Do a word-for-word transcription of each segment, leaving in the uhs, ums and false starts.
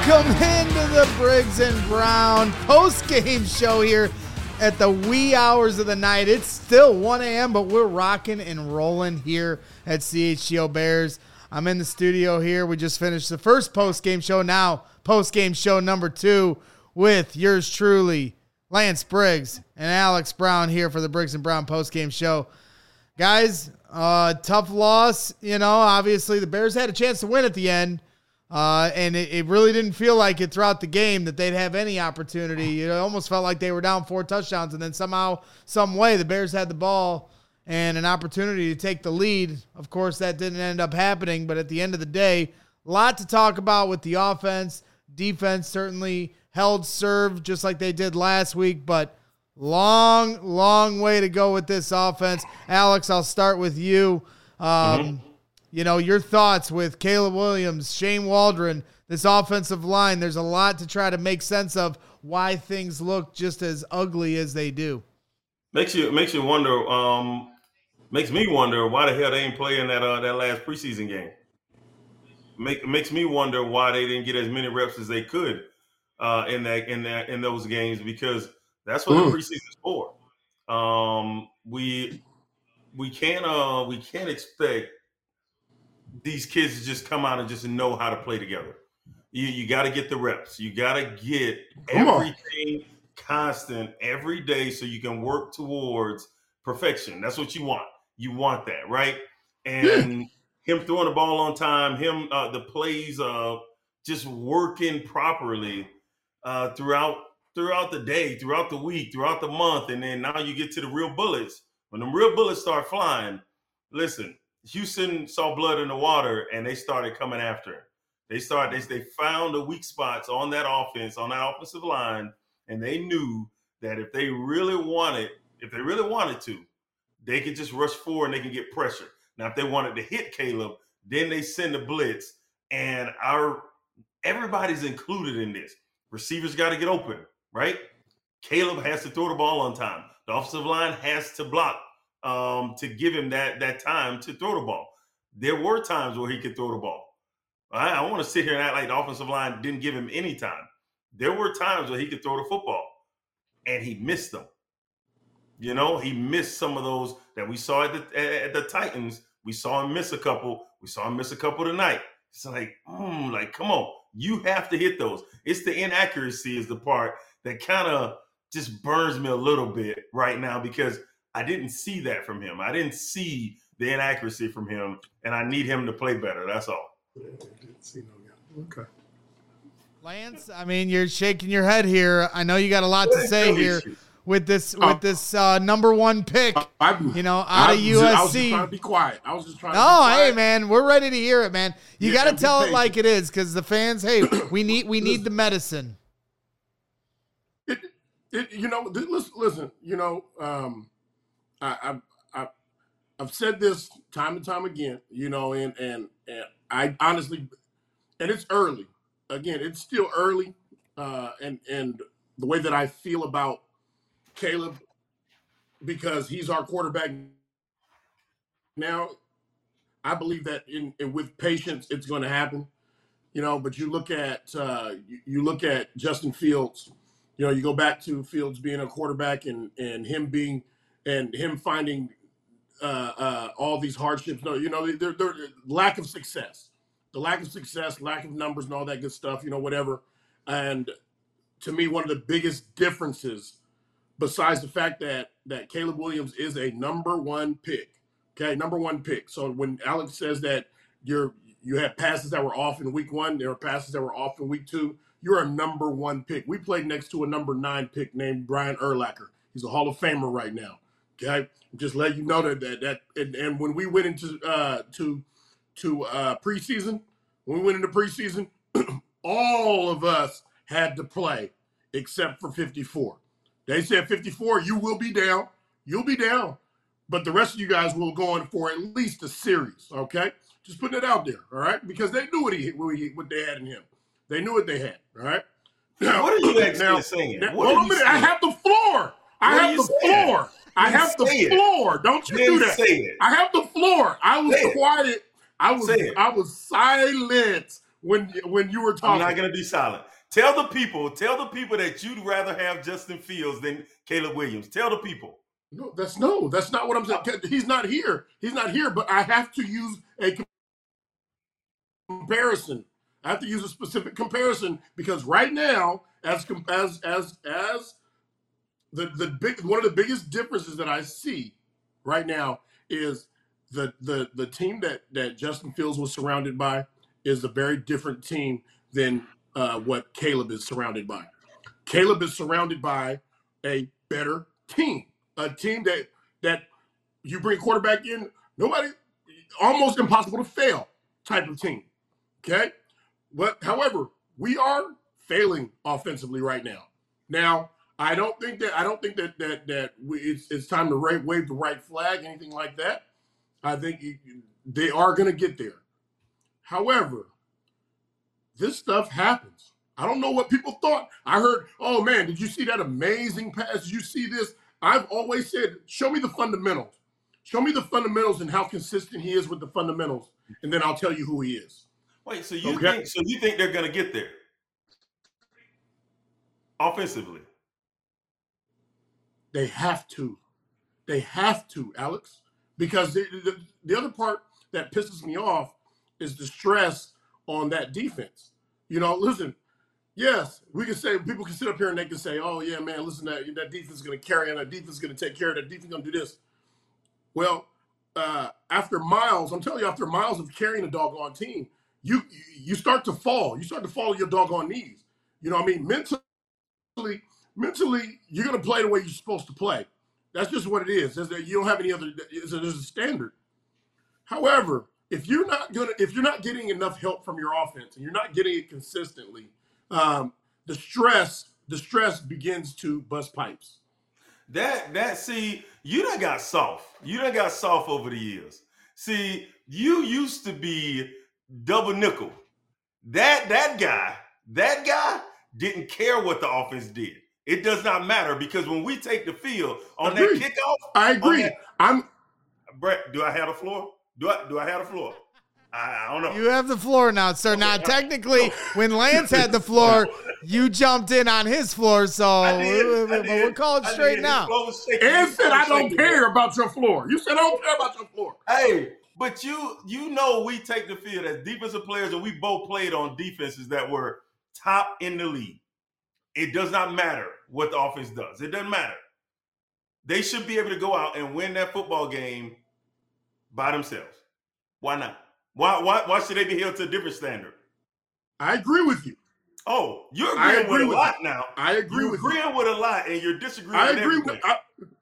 Welcome into the Briggs and Brown post-game show here at the wee hours of the night. It's still one a.m., but we're rocking and rolling here at C H G O Bears. I'm in the studio here. We just finished the first post-game show. Now, post-game show number two with yours truly, Lance Briggs and Alex Brown here for the Briggs and Brown post-game show. Guys, uh, tough loss. You know, obviously the Bears had a chance to win at the end. Uh, and it, it really didn't feel like it throughout the game that they'd have any opportunity. It almost felt like they were down four touchdowns, and then somehow, some way, the Bears had the ball and an opportunity to take the lead. Of course, that didn't end up happening, but at the end of the day, a lot to talk about with the offense. Defense certainly held serve just like they did last week, but long, long way to go with this offense. Alex, I'll start with you. Um, mm-hmm. You know, your thoughts with Caleb Williams, Shane Waldron, this offensive line. There's a lot to try to make sense of why things look just as ugly as they do. Makes you makes you wonder. Um, makes me wonder why the hell they ain't playing that uh, that last preseason game. Make makes me wonder why they didn't get as many reps as they could uh, in that in that in those games, because that's what mm. the preseason's for. Um, we we can't uh, we can't expect these kids to just come out and just know how to play together. You you got to get the reps. You got to get come everything on. constant every day so you can work towards perfection. That's what you want. You want that, right? And yeah. him throwing the ball on time, him uh, the plays uh, just working properly uh, throughout throughout the day, throughout the week, throughout the month, and then now you get to the real bullets. When the real bullets start flying, listen. Houston saw blood in the water, and they started coming after him. They started. They, they found the weak spots on that offense, on that offensive line, and they knew that if they really wanted, if they really wanted to, they could just rush forward and they can get pressure. Now, if they wanted to hit Caleb, then they send the blitz, and our everybody's included in this. Receivers got to get open, right? Caleb has to throw the ball on time. The offensive line has to block. Um, to give him that that time to throw the ball. There were times where he could throw the ball. I, I want to sit here and act like the offensive line didn't give him any time. There were times where he could throw the football, and he missed them. You know, he missed some of those that we saw at the, at, at the Titans. We saw him miss a couple. We saw him miss a couple tonight. It's like, mm, like, come on. You have to hit those. It's the inaccuracy is the part that kind of just burns me a little bit right now, because I didn't see that from him. I didn't see the inaccuracy from him, and I need him to play better. That's all. Okay. Lance, I mean, you're shaking your head here. I know you got a lot to say here with this with this uh, number one pick. I, you know, out I, of U S C. I was just trying to be quiet. I was just trying. To oh, be quiet. Hey, man, we're ready to hear it, man. You yeah, got to tell it like it is, because the fans. Hey, we need we need the medicine. It, it, you know, listen, listen. You know. Um, I, I, I, I've said this time and time again, you know, and, and, and I honestly, and it's early. Again, it's still early. Uh, and, and the way that I feel about Caleb, because he's our quarterback now, I believe that in, in with patience, it's going to happen, you know, but you look at, uh, you, you look at Justin Fields, you know, you go back to Fields being a quarterback and, and him being, and him finding uh, uh, all these hardships. No, you know, they're, they're, lack of success, the lack of success, lack of numbers and all that good stuff, you know, whatever. And to me, one of the biggest differences, besides the fact that that Caleb Williams is a number one pick, okay, number one pick. So when Alex says that you're you had passes that were off in week one, there were passes that were off in week two, you're a number one pick. We played next to a number nine pick named Brian Urlacher. He's a Hall of Famer right now. Okay, just let you know that that, that and, and when we went into uh, to to uh, preseason, when we went into preseason, all of us had to play except for fifty-four. They said fifty-four, you will be down, you'll be down, but the rest of you guys will go in for at least a series. Okay, just putting it out there. All right, because they knew what he what, he, what they had in him. They knew what they had. All right. Now, what are you actually now, saying? Now, what hold on a minute. I have the floor. I have the saying? floor. I have the floor. It. Don't you do that. Say it. I have the floor. I was quiet. I was I was silent when when you were talking. I'm not going to be silent. Tell the people, tell the people that you'd rather have Justin Fields than Caleb Williams. Tell the people. No, that's no, that's not what I'm saying. He's not here. He's not here, but I have to use a comparison. I have to use a specific comparison because right now, as as as as the the big one of the biggest differences that I see right now is the the the team that that Justin Fields was surrounded by is a very different team than uh, what Caleb is surrounded by. Caleb is surrounded by a better team, a team that that you bring quarterback in, nobody, almost impossible to fail type of team. Okay, but however, we are failing offensively right now. Now, I don't think that I don't think that that that we, it's it's time to wave, wave the right flag, anything like that. I think they are going to get there. However, this stuff happens. I don't know what people thought. I heard, oh man, did you see that amazing pass? Did you see this? I've always said, show me the fundamentals. Show me the fundamentals and how consistent he is with the fundamentals, and then I'll tell you who he is. Wait, so you Okay. think so you think they're going to get there offensively? They have to. They have to, Alex. Because the, the, the other part that pisses me off is the stress on that defense. You know, listen, yes, we can say, people can sit up here and they can say, oh, yeah, man, listen, that, that defense is going to carry on, that defense is going to take care of that defense is going to do this. Well, uh, after miles, I'm telling you, after miles of carrying a doggone team, you you start to fall. You start to fall on your doggone knees. You know what I mean? Mentally, mentally, you're going to play the way you're supposed to play. That's just what it is. There's a, you don't have any other. There's a, there's a standard. However, if you're not gonna, if you're not getting enough help from your offense and you're not getting it consistently, um, the stress, the stress begins to bust pipes. That that see, you done got soft. You done got soft over the years. See, you used to be double nickel. That that guy, that guy didn't care what the offense did. It does not matter because when we take the field on that Agreed. kickoff, I agree. that, I'm Brett, do I have the floor? Do I do I have the floor? I, I don't know. You have the floor now, sir. Okay. Now, technically, when Lance had the floor, you jumped in on his floor, so did, we're, I did, we're calling I straight did. now. and said I don't care about your floor. You said I don't care about your floor. Hey, but you you know we take the field as defensive players, and we both played on defenses that were top in the league. It does not matter what the offense does. It doesn't matter. They should be able to go out and win that football game by themselves. Why not? Why why why should they be held to a different standard? I agree with you. Oh, you're I agreeing agree with a with lot you. now. I agree You're with agreeing you. with a lot, and you're disagreeing I with agree everything. with.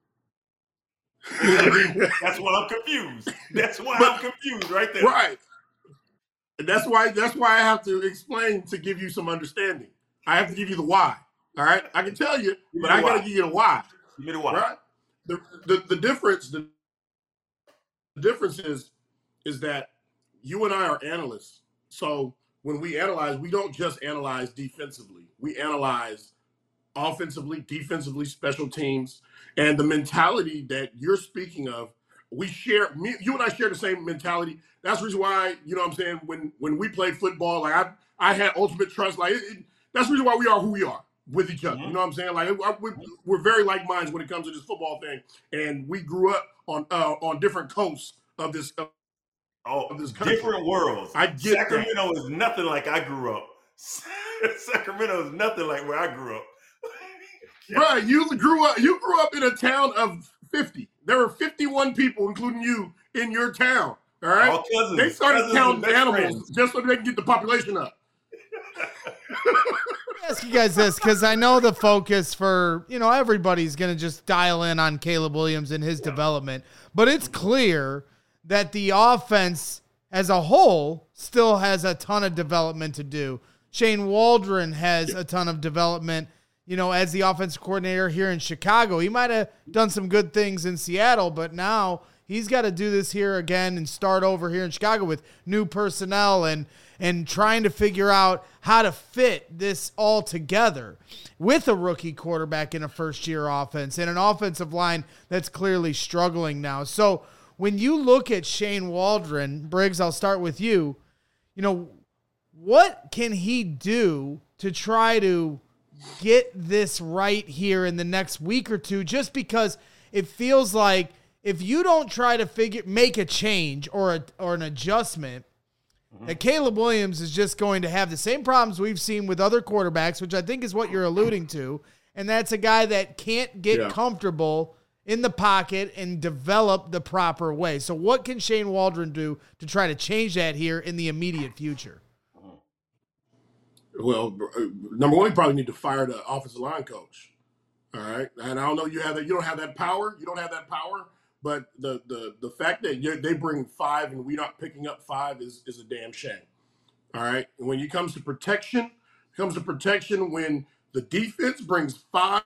I, That's why I'm confused. That's why But- I'm confused right there. right. And that's why. That's why I have to explain to give you some understanding. I have to give you the why. All right. I can tell you, me but the I got to why. give you the why. Give me the why. Right. The, the the difference. The, the difference is is that you and I are analysts. So when we analyze, we don't just analyze defensively. We analyze offensively, defensively, special teams, and the mentality that you're speaking of. We share. Me, you and I share the same mentality. That's the reason why, you know what I'm saying, when when we played football, like I I had ultimate trust. Like it, it, that's the reason why we are who we are with each other. Mhm. You know what I'm saying? Like I, we, we're very like minds when it comes to this football thing, and we grew up on uh, on different coasts of this. Of, Oh, of this country. different worlds. I get Sacramento is nothing like I grew up. Sacramento is nothing like where I grew up. Right, you grew up. You grew up in a town of fifty. There were fifty-one people, including you, in your town. All right. All cousins. They started cousins counting and best animals friends. just so they can get the population up. Ask you guys this because I know the focus for, you know, everybody's going to just dial in on Caleb Williams and his development, but it's clear that the offense as a whole still has a ton of development to do. Shane Waldron has a ton of development, you know, as the offensive coordinator here in Chicago. He might have done some good things in Seattle, but now he's got to do this here again and start over here in Chicago with new personnel and and trying to figure out how to fit this all together with a rookie quarterback in a first-year offense and an offensive line that's clearly struggling now. So when you look at Shane Waldron, Briggs, I'll start with you. You know, what can he do to try to get this right here in the next week or two? Just because it feels like if you don't try to figure make a change or a, or an adjustment, mm-hmm. that Caleb Williams is just going to have the same problems we've seen with other quarterbacks, which I think is what you're alluding to, and that's a guy that can't get yeah. comfortable in the pocket and develop the proper way. So what can Shane Waldron do to try to change that here in the immediate future? Well, number one, you probably need to fire the offensive line coach. All right, and I don't know you have that. You don't have that power. You don't have that power. But the the the fact that you, they bring five and we're not picking up five is is a damn shame. All right. And when it comes to protection, it comes to protection when the defense brings five,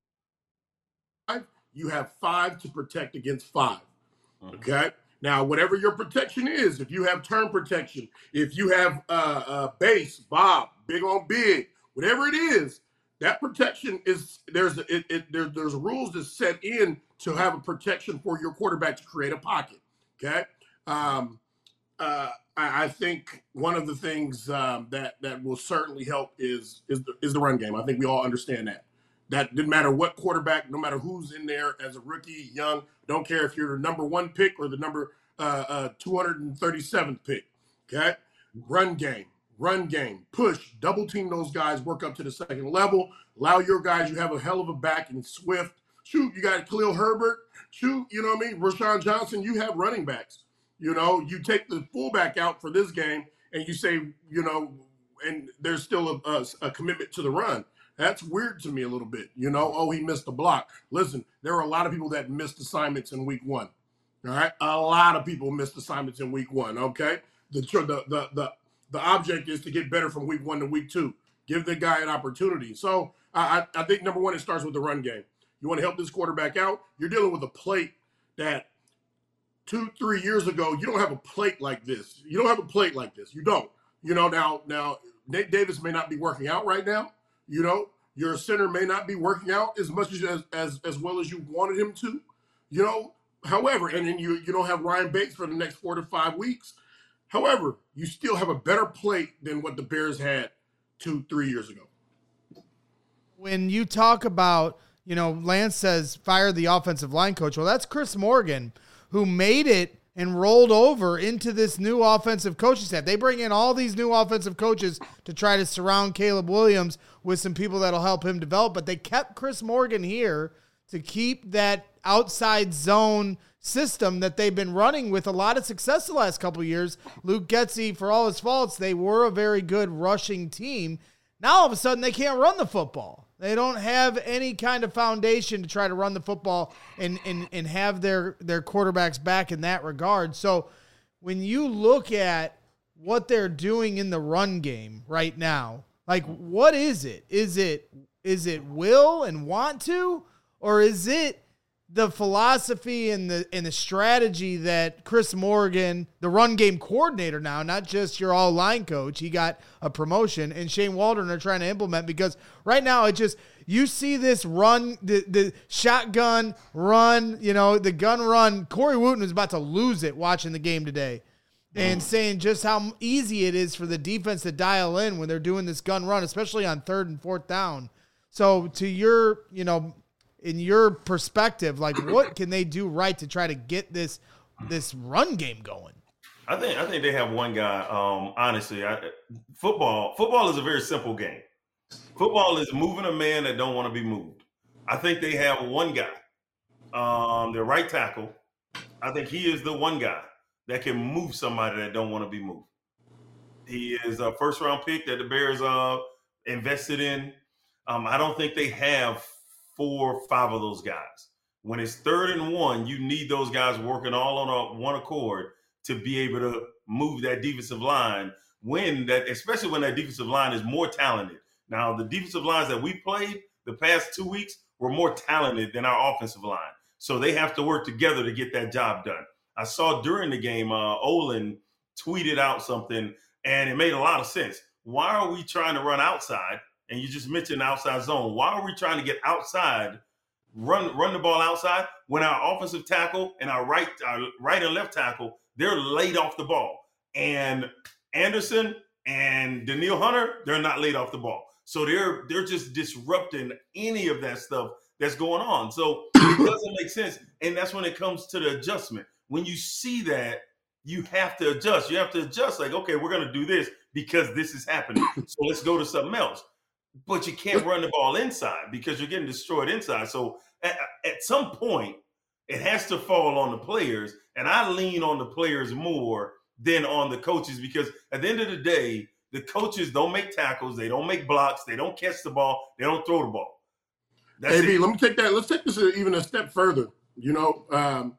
you have five to protect against five. Okay. Now, whatever your protection is, if you have turn protection, if you have uh, uh, base, Bob, big on big, whatever it is, that protection is there's it, it there, there's rules that set in to have a protection for your quarterback to create a pocket. Okay, um, uh, I, I think one of the things um, that that will certainly help is is the, is the run game. I think we all understand that. That didn't matter what quarterback, no matter who's in there as a rookie, young, don't care if you're the number one pick or the number uh, uh, two hundred thirty-seventh pick. Okay, run game. Run game, push, double team those guys, work up to the second level, allow your guys, you have a hell of a back in Swift. Shoot, you got Khalil Herbert. Shoot, you know what I mean? Rashawn Johnson, you have running backs. You know, you take the fullback out for this game and you say, you know, and there's still a, a, a commitment to the run. That's weird to me a little bit. You know, oh, he missed the block. Listen, there are a lot of people that missed assignments in week one. All right? A lot of people missed assignments in week one, okay? The, the, the, the, The object is to get better from week one to week two. Give the guy an opportunity. So I, I think, number one, it starts with the run game. You want to help this quarterback out? You're dealing with a plate that two, three years ago, you don't have a plate like this. You don't have a plate like this. You don't. You know, now, now Nate Davis may not be working out right now. You know, your center may not be working out as much as as, as well as you wanted him to. You know, however, and then you, you don't have Ryan Bates for the next four to five weeks. However, you still have a better plate than what the Bears had two, three years ago. When you talk about, you know, Lance says fire the offensive line coach. Well, that's Chris Morgan, who made it and rolled over into this new offensive coaching staff. They bring in all these new offensive coaches to try to surround Caleb Williams with some people that'll help him develop. But they kept Chris Morgan here to keep that outside zone system that they've been running with a lot of success the last couple of years. Luke Getsy, for all his faults, they were a very good rushing team. Now all of a sudden they can't run the football. They don't have any kind of foundation to try to run the football and and, and have their, their quarterbacks back in that regard. So when you look at what they're doing in the run game right now, like what is it? Is it is it will and want to, or is it the philosophy and the and the strategy that Chris Morgan, the run game coordinator now, not just your all line coach, he got a promotion, and Shane Waldron are trying to implement? Because right now it just, you see this run, the, the shotgun run, you know, the gun run. Corey Wooten was about to lose it watching the game today and saying just how easy it is for the defense to dial in when they're doing this gun run, especially on third and fourth down. So to your, you know, in your perspective, like what can they do right to try to get this this run game going? I think I think they have one guy. Um, honestly, I, football football is a very simple game. Football is moving a man that don't want to be moved. I think they have one guy, um, their right tackle. I think he is the one guy that can move somebody that don't want to be moved. He is a first round pick that the Bears uh, invested in. Um, I don't think they have four, five of those guys. When it's third and one, you need those guys working all on a, one accord to be able to move that defensive line. When that, especially when that defensive line is more talented. Now, the defensive lines that we played the past two weeks were more talented than our offensive line, so they have to work together to get that job done. I saw during the game, uh, Olin tweeted out something, and it made a lot of sense. Why are we trying to run outside? And you just mentioned outside zone. Why are we trying to get outside, run run the ball outside, when our offensive tackle and our right our right and left tackle, they're laid off the ball? And Anderson And Danielle Hunter, they're not laid off the ball. So they're they're just disrupting any of that stuff that's going on. So it doesn't make sense. And that's when it comes to the adjustment. When you see that, you have to adjust. You have to adjust like, okay, we're going to do this because this is happening. So let's go to something else. But you can't run the ball inside because you're getting destroyed inside. So at, at some point, it has to fall on the players. And I lean on the players more than on the coaches because at the end of the day, the coaches don't make tackles. They don't make blocks. They don't catch the ball. They don't throw the ball. That's A B, it. let me take that. Let's take this even a step further. You know, um,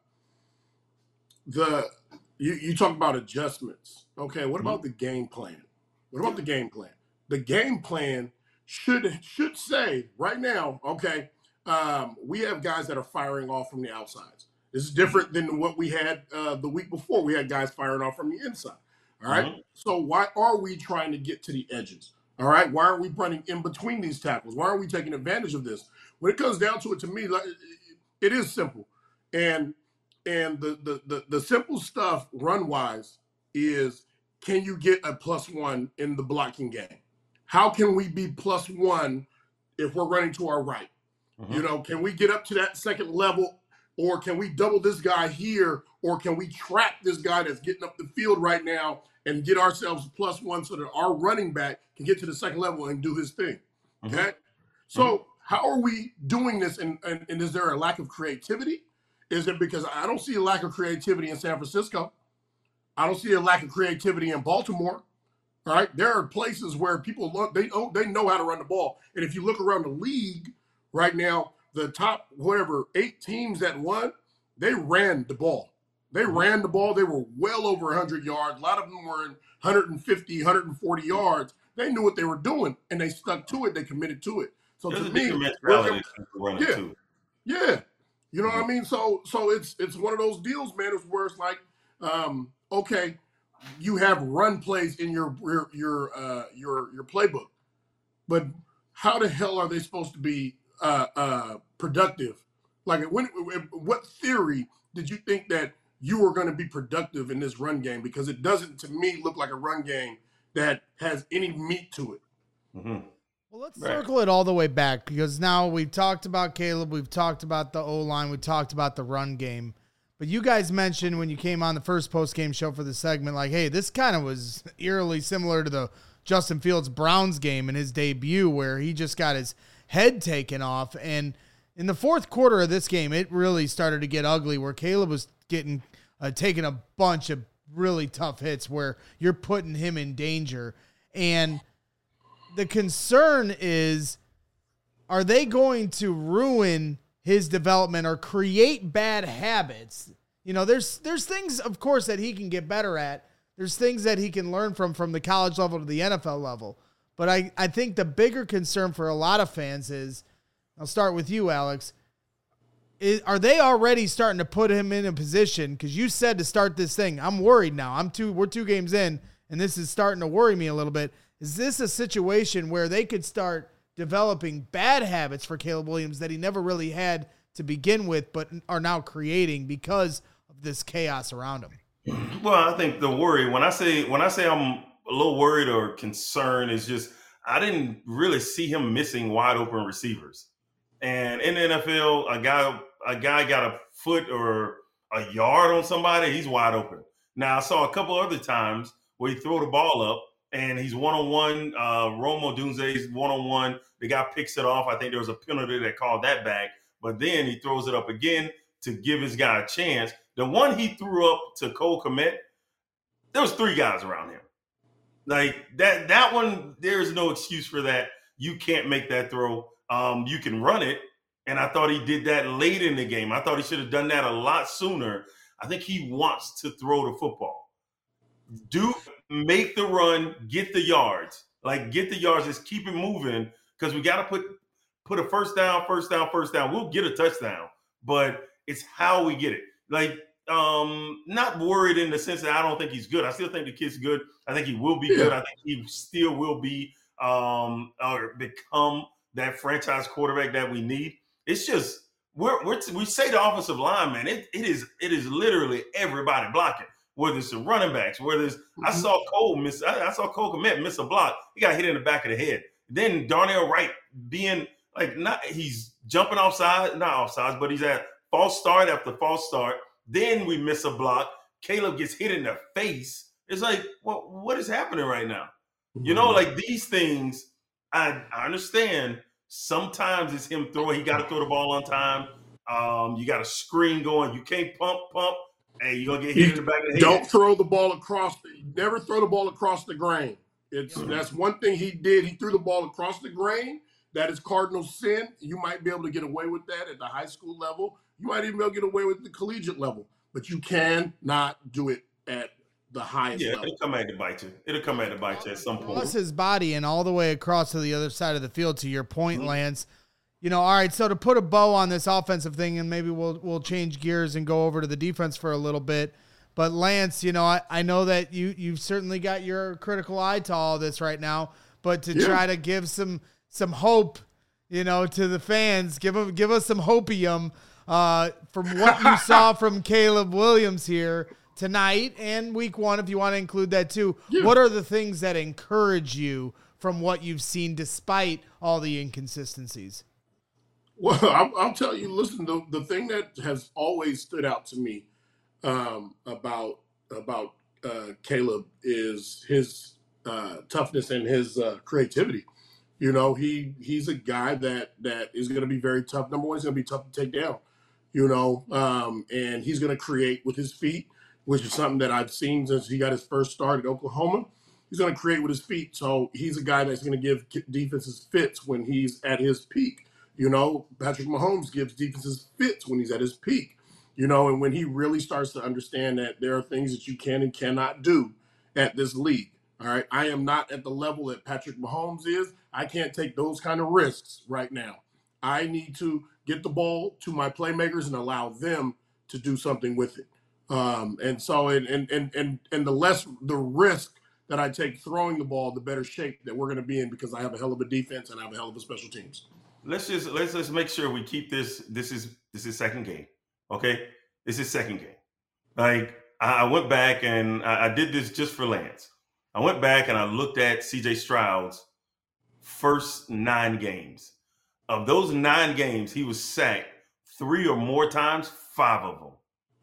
the you, you talk about adjustments. Okay, what about the game plan? What about the game plan? The game plan should should say right now, okay, um, we have guys that are firing off from the outsides. This is different than what we had uh, the week before. We had guys firing off from the inside. All right. Mm-hmm. So why are we trying to get to the edges? All right. Why aren't we running in between these tackles? Why aren't we taking advantage of this? When it comes down to it, to me, it is simple. And and the the the, the simple stuff run wise is, can you get a plus one in the blocking game? How can we be plus one if we're running to our right? Mm-hmm. You know, can we get up to that second level? Or can we double this guy here? Or can we trap this guy that's getting up the field right now and get ourselves plus one so that our running back can get to the second level and do his thing? Okay. Mm-hmm. So how are we doing this? And, and, and is there a lack of creativity? Is it because I don't see a lack of creativity in San Francisco? I don't see a lack of creativity in Baltimore. All right. There are places where people look, they know, they know how to run the ball. And if you look around the league right now, the top, whatever, eight teams that won, they ran the ball. They ran the ball. They were well over one hundred yards. A lot of them were in one fifty, one forty yards. They knew what they were doing, and they stuck to it. They committed to it. So There's to a me, mentality to yeah, too. yeah, you know mm-hmm. what I mean. So, so it's it's one of those deals, man. It's where it's like, um, okay, you have run plays in your your your uh, your your playbook, but how the hell are they supposed to be uh, uh, productive? Like, when, what theory did you think that you were going to be productive in this run game? Because it doesn't, to me, look like a run game that has any meat to it. Mm-hmm. Well, let's right. circle it all the way back, because now we've talked about Caleb, we've talked about the O-line, we talked about the run game. But you guys mentioned when you came on the first post-game show for the segment, like, hey, this kind of was eerily similar to the Justin Fields Browns game in his debut, where he just got his head taken off. And in the fourth quarter of this game, it really started to get ugly, where Caleb was getting uh, taking a bunch of really tough hits where you're putting him in danger. And the concern is, are they going to ruin his development or create bad habits? You know, there's there's things, of course, that he can get better at. There's things that he can learn from from the college level to the N F L level. But I, I think the bigger concern for a lot of fans is, I'll start with you, Alex, is, are they already starting to put him in a position, because you said to start this thing, I'm worried now. I'm two, we're two games in, and this is starting to worry me a little bit. Is this a situation where they could start developing bad habits for Caleb Williams that he never really had to begin with, but are now creating because of this chaos around him? Well, I think the worry, when I say when I say I'm a little worried or concerned, is just I didn't really see him missing wide open receivers. And in the N F L, a guy a guy got a foot or a yard on somebody, he's wide open. Now, I saw a couple other times where he throw the ball up and he's one-on-one. Uh, Rome Odunze's one-on-one. The guy picks it off. I think there was a penalty that called that back. But then he throws it up again to give his guy a chance. The one he threw up to Cole Kmet, there was three guys around him. Like, that that one, there is no excuse for that. You can't make that throw. Um, you can run it, and I thought he did that late in the game. I thought he should have done that a lot sooner. I think he wants to throw the football. Do make the run, get the yards. Like, get the yards, just keep it moving, because we got to put put a first down, first down, first down. We'll get a touchdown, but it's how we get it. Like, um, not worried in the sense that I don't think he's good. I still think the kid's good. I think he will be yeah. good. I think he still will be um, or become that franchise quarterback that we need. It's just we're, we're we say the offensive line, man. It it is it is literally everybody blocking. whether it's the running backs, whether it's I saw Cole miss, I, I saw Cole Kmet miss a block. He got hit in the back of the head. Then Darnell Wright being like not he's jumping off sides, not off sides, but he's at false start after false start. Then we miss a block. Caleb gets hit in the face. It's like, what well, what is happening right now? You know, like these things, I, I understand sometimes it's him throwing, he got to throw the ball on time. Um, you got a screen going. You can't pump, pump. Hey, you're going to get hit in the back of the head. Don't throw the ball across. The, never throw the ball across the grain. It's mm-hmm. That's one thing he did. He threw the ball across the grain. That is cardinal sin. You might be able to get away with that at the high school level. You might even be able to get away with the collegiate level. But you cannot do it at the highest yeah, level. It'll come at the bite you. It'll come at the bite you at some point. Plus his body and all the way across to the other side of the field, to your point, mm-hmm. Lance. You know, all right, so to put a bow on this offensive thing, and maybe we'll we'll change gears and go over to the defense for a little bit. But Lance, you know, I, I know that you you've certainly got your critical eye to all this right now, but to yeah. try to give some some hope, you know, to the fans, give them, give us some hopium uh, from what you saw from Caleb Williams here tonight and week one, if you want to include that too. Yeah. What are the things that encourage you from what you've seen despite all the inconsistencies? Well, I'll, I'll tell you, listen, the, the thing that has always stood out to me um, about about uh, Caleb is his uh, toughness and his uh, creativity. You know, he he's a guy that that is going to be very tough. Number one, he's going to be tough to take down, you know, um, and he's going to create with his feet, which is something that I've seen since he got his first start at Oklahoma. He's going to create with his feet. So he's a guy that's going to give defenses fits when he's at his peak. You know, Patrick Mahomes gives defenses fits when he's at his peak, you know, and when he really starts to understand that there are things that you can and cannot do at this league. All right. I am not at the level that Patrick Mahomes is. I can't take those kind of risks right now. I need to get the ball to my playmakers and allow them to do something with it. Um, and so, and, and, and, and, and the less the risk that I take throwing the ball, the better shape that we're going to be in, because I have a hell of a defense and I have a hell of a special teams. Let's just let's just make sure we keep this. This is this is second game, okay? This is second game. Like I went back and I, I did this just for Lance. I went back and I looked at C J Stroud's first nine games. Of those nine games, he was sacked three or more times. Five of them.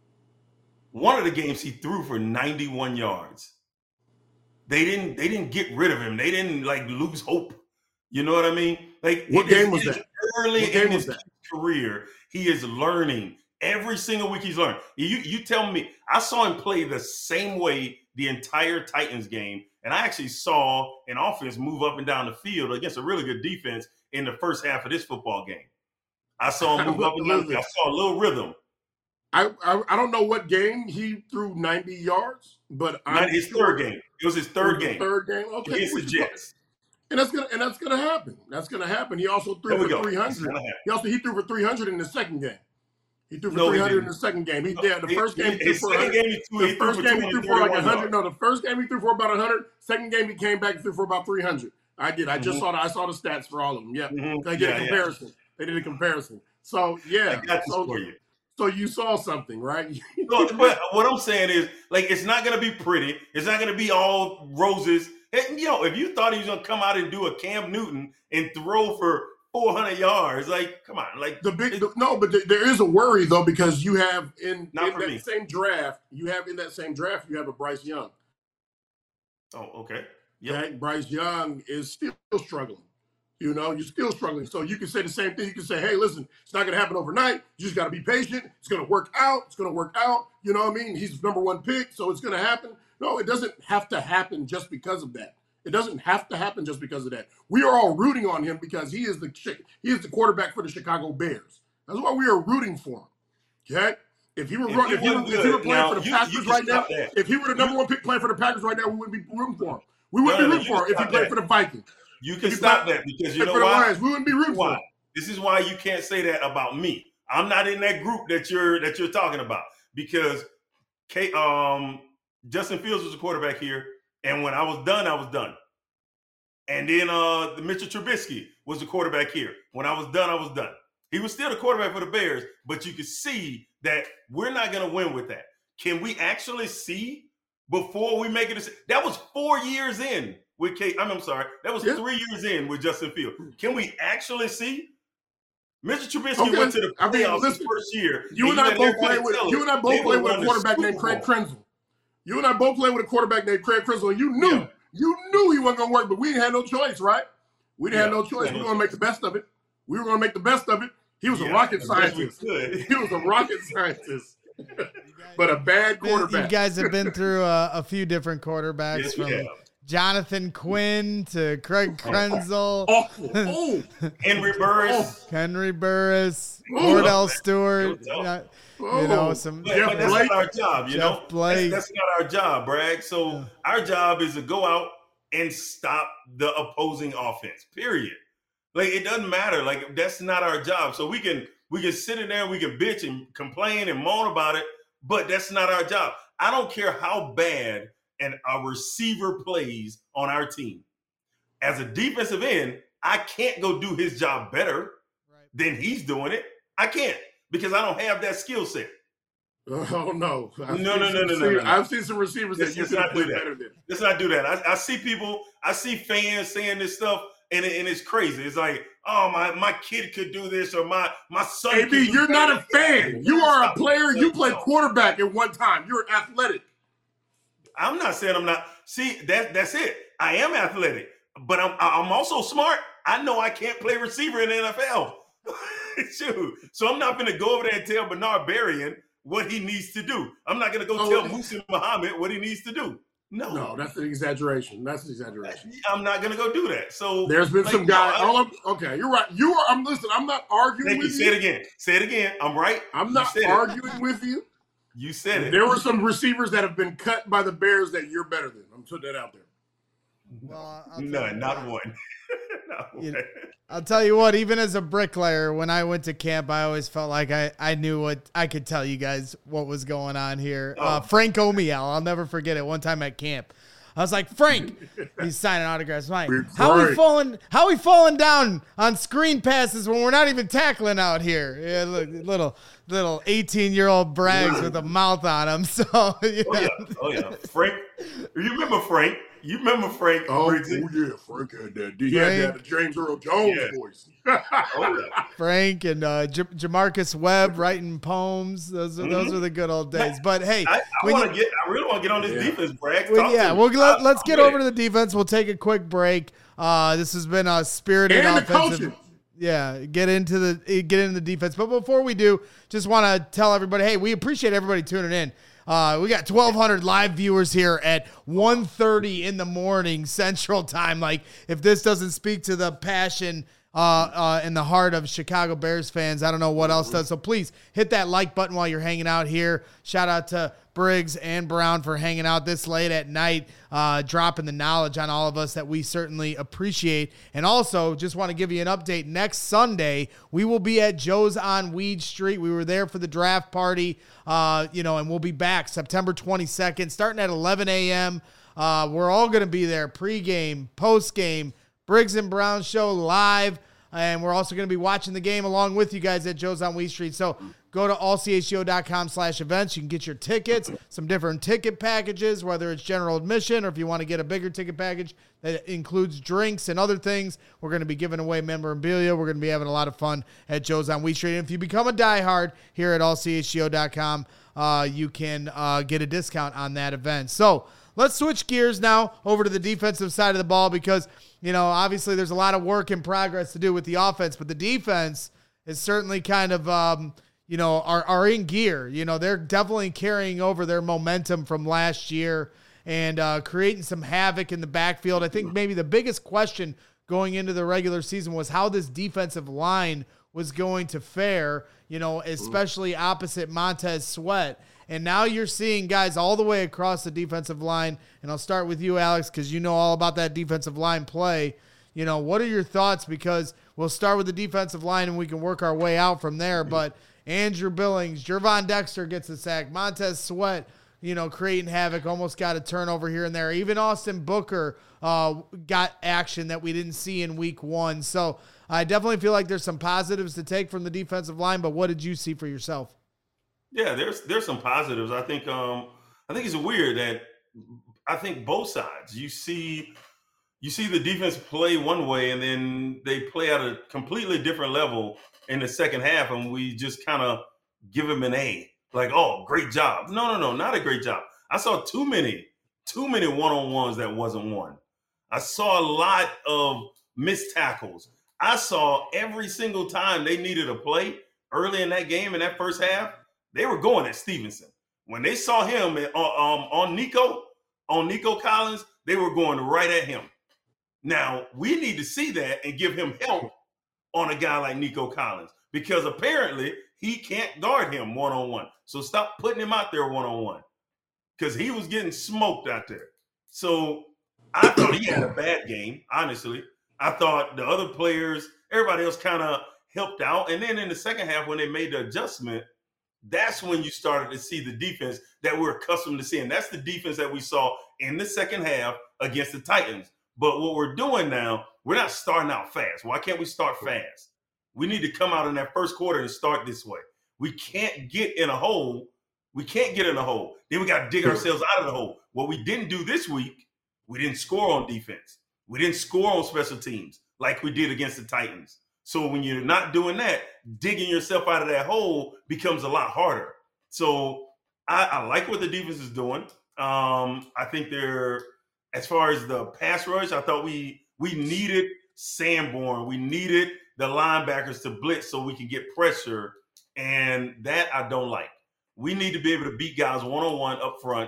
One of the games he threw for ninety-one yards. They didn't they didn't get rid of him. They didn't like lose hope. You know what I mean? Like what game was that? Early in his career, he is learning. Every single week he's learning. You you tell me, I saw him play the same way the entire Titans game, and I actually saw an offense move up and down the field against a really good defense in the first half of this football game. I saw him move up and down the field. I saw a little rhythm. I, I I don't know what game he threw ninety yards, but Not his sure third game. It was his third game. Third game, okay. Against the Jets. And that's gonna and that's gonna happen. That's gonna happen. He also threw for go. three hundred. He also he threw for three hundred in the second game. He threw for no, three hundred in the second game. He did. The first game he threw for game, he threw, the first game he threw for like one hundred. No, the first game he threw for about one hundred. Second game he came back and threw for about three hundred. I did. I just mm-hmm. saw the I saw the stats for all of them. Yeah, mm-hmm. They did yeah, a comparison. Yeah. They did a comparison. So yeah, I got so, for you. So you saw something, right? No, but what I'm saying is, like, it's not going to be pretty. It's not going to be all roses. And, you know, if you thought he was going to come out and do a Cam Newton and throw for four hundred yards, like, come on, like the big the, no, but th- there is a worry though, because you have in, in that me. same draft, you have in that same draft, you have a Bryce Young. Oh, okay. Yeah, okay? Bryce Young is still struggling. You know, you're still struggling. So you can say the same thing. You can say, hey, listen, it's not going to happen overnight. You just got to be patient. It's going to work out. It's going to work out. You know what I mean? He's number one pick, so it's going to happen. No, it doesn't have to happen just because of that. It doesn't have to happen just because of that. We are all rooting on him because he is the he is the quarterback for the Chicago Bears. That's why we are rooting for him. Okay? If he were if, run, if, he, were, if he were playing now, for the you, Packers you right now, that. if he were the number one pick playing for the Packers right now, we wouldn't be rooting for him. We wouldn't no, be rooting no, for him if he played that. for the Vikings. You can stop that because you know why? Lions, we wouldn't be rooting why? for him. This is why you can't say that about me. I'm not in that group that you're that you're talking about because K, um, Justin Fields was a quarterback here, and when I was done, I was done. And then uh, the Mitchell Trubisky was the quarterback here. When I was done, I was done. He was still the quarterback for the Bears, but you could see that we're not going to win with that. Can we actually see before we make it? That was four years in with Kate. I'm, I'm sorry. That was yeah. three years in with Justin Fields. Can we actually see? Mister Trubisky okay. went to the playoffs I mean, listen, first year. You and, and I both play with you and I both play with a quarterback named Craig Krenzel. You and I both played with a quarterback named Craig Krenzel, and you knew yeah. you knew he wasn't gonna work, but we didn't have no choice, right? We didn't yeah. have no choice. We were gonna make the best of it. We were gonna make the best of it. He was yeah, a rocket scientist. He was a rocket scientist. But a bad quarterback. You guys have been through a, a few different quarterbacks yes, from yeah. Jonathan Quinn to Craig Krenzel. Awful. Oh. Henry Burris. Henry Burris. Cordell Stewart. You know, some but, but that's not our job, you Jeff know. That's, that's not our job, Bragg. So yeah. our job is to go out and stop the opposing offense. Period. Like it doesn't matter. Like that's not our job. So we can we can sit in there and we can bitch and complain and moan about it, but that's not our job. I don't care how bad and a receiver plays on our team. As a defensive end, I can't go do his job better right. than he's doing it. I can't because I don't have that skill set. Oh no! I've no, no, no, no, no, no! I've seen some receivers that you not do that. Better than. Let's not do that. I, I see people, I see fans saying this stuff, and it, and it's crazy. It's like, oh my, my kid could do this, or my my son. A B, you're not a fan. You are a player. You played quarterback at one time. You're athletic. I'm not saying I'm not. See, that that's it. I am athletic, but I'm I'm also smart. I know I can't play receiver in the N F L. Shoot. So I'm not going to go over there and tell Bernard Berrian what he needs to do. I'm not going to go oh, tell Muhsin Muhammad what he needs to do. No, no, that's an exaggeration. That's an exaggeration. I'm not going to go do that. So there's been like, some guy. No, all okay, you're right. You are. I'm listen. I'm not arguing with you. you. Say it again. Say it again. I'm right. I'm not arguing it. with you. You said it. There were some receivers that have been cut by the Bears that you're better than. I'm putting that out there. Well, None, not one. not one. You know, I'll tell you what, even as a bricklayer, when I went to camp, I always felt like I, I knew what I could tell you guys what was going on here. Oh. Uh, Frank Omiel, I'll never forget it. One time at camp, I was like, Frank, he's signing autographs. I'm like, how we falling? How we falling down on screen passes when we're not even tackling out here? Yeah, look, little little eighteen year old Braggs with a mouth on him. So yeah. Oh yeah, oh yeah, Frank. You remember Frank? You remember Frank? Oh, oh yeah, Frank had that. He Frank, had that James Earl Jones yeah. voice. oh, yeah. Frank and uh, J- Jamarcus Webb writing poems. Those are mm-hmm. those are the good old days. But hey, I, I want to get. I really want to get on this yeah. defense, Bragg. Well, yeah, well let, let's get over to the defense. We'll take a quick break. Uh, this has been a spirited and offensive. Yeah, get into the get into the defense. But before we do, just want to tell everybody, hey, we appreciate everybody tuning in. Uh, we got twelve hundred live viewers here at one thirty in the morning Central Time. Like, if this doesn't speak to the passion uh, uh, in the heart of Chicago Bears fans, I don't know what else does. So please hit that like button while you're hanging out here. Shout out to Briggs and Brown for hanging out this late at night, uh, dropping the knowledge on all of us that we certainly appreciate. And also, just want to give you an update. Next Sunday, we will be at Joe's on Weed Street. We were there for the draft party, uh, you know, and we'll be back September twenty-second, starting at eleven a.m. Uh, we're all going to be there, pregame, postgame, Briggs and Brown show live. And we're also going to be watching the game along with you guys at Joe's on Weed Street. So go to all c h g o dot com slash events. You can get your tickets, some different ticket packages, whether it's general admission or if you want to get a bigger ticket package that includes drinks and other things. We're going to be giving away memorabilia. We're going to be having a lot of fun at Joe's on Weed Street. And if you become a diehard here at all c h g o dot com, uh, you can uh, get a discount on that event. So let's switch gears now over to the defensive side of the ball because, you know, obviously there's a lot of work in progress to do with the offense, but the defense is certainly kind of, um, you know, are, are in gear. You know, they're definitely carrying over their momentum from last year and uh, creating some havoc in the backfield. I think maybe the biggest question going into the regular season was how this defensive line was going to fare, you know, especially opposite Montez Sweat. And now you're seeing guys all the way across the defensive line. And I'll start with you, Alex, because you know all about that defensive line play. You know, what are your thoughts? Because we'll start with the defensive line and we can work our way out from there. But Andrew Billings, Gervon Dexter gets a sack. Montez Sweat, you know, creating havoc, almost got a turnover here and there. Even Austin Booker uh, got action that we didn't see in week one. So I definitely feel like there's some positives to take from the defensive line. But what did you see for yourself? Yeah, there's there's some positives. I think um I think it's weird that I think both sides. You see you see the defense play one way and then they play at a completely different level in the second half, and we just kind of give them an A. Like, oh, great job. No, no, no, not a great job. I saw too many, too many one-on-ones that wasn't won. I saw a lot of missed tackles. I saw every single time they needed a play early in that game in that first half, they were going at Stevenson. When they saw him on, um, on Nico, on Nico Collins, they were going right at him. Now, we need to see that and give him help on a guy like Nico Collins, because apparently he can't guard him one-on-one. So stop putting him out there one-on-one, because he was getting smoked out there. So I thought he had a bad game, honestly. I thought the other players, everybody else kind of helped out. And then in the second half, when they made the adjustment, that's when you started to see the defense that we're accustomed to seeing. That's the defense that we saw in the second half against the Titans. But what we're doing now, we're not starting out fast. Why can't we start fast? We need to come out in that first quarter and start this way. We can't get in a hole. We can't get in a hole. Then we got to dig ourselves out of the hole. What we didn't do this week, we didn't score on defense. We didn't score on special teams like we did against the Titans. So when you're not doing that, digging yourself out of that hole becomes a lot harder. So I, I like what the defense is doing. Um, I think they're, as far as the pass rush, I thought we we needed Sanborn. We needed the linebackers to blitz so we can get pressure, and that I don't like. We need to be able to beat guys one-on-one up front,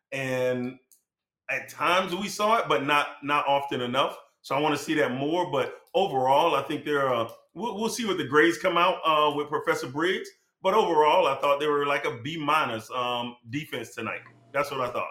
and at times we saw it, but not not often enough. So I want to see that more. But overall, I think they're uh, we'll, we'll see what the grades come out uh, with Professor Briggs. But overall, I thought they were like a B minus um, defense tonight. That's what I thought.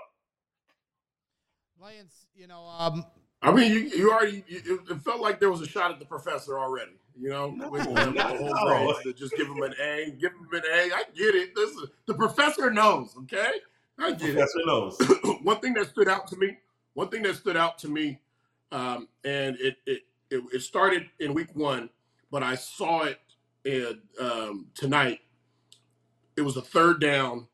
Lance, you know, um, I mean, you, you already, you, it felt like there was a shot at the professor already, you know, No, with, with not the at whole all. grades, to just give him an A, give him an A. I get it. This is, the professor knows, okay? I get Professor knows. it. One thing that stood out to me, one thing that stood out to me, um, and it, it it it started in week one, but I saw it in, um, tonight. It was a third down.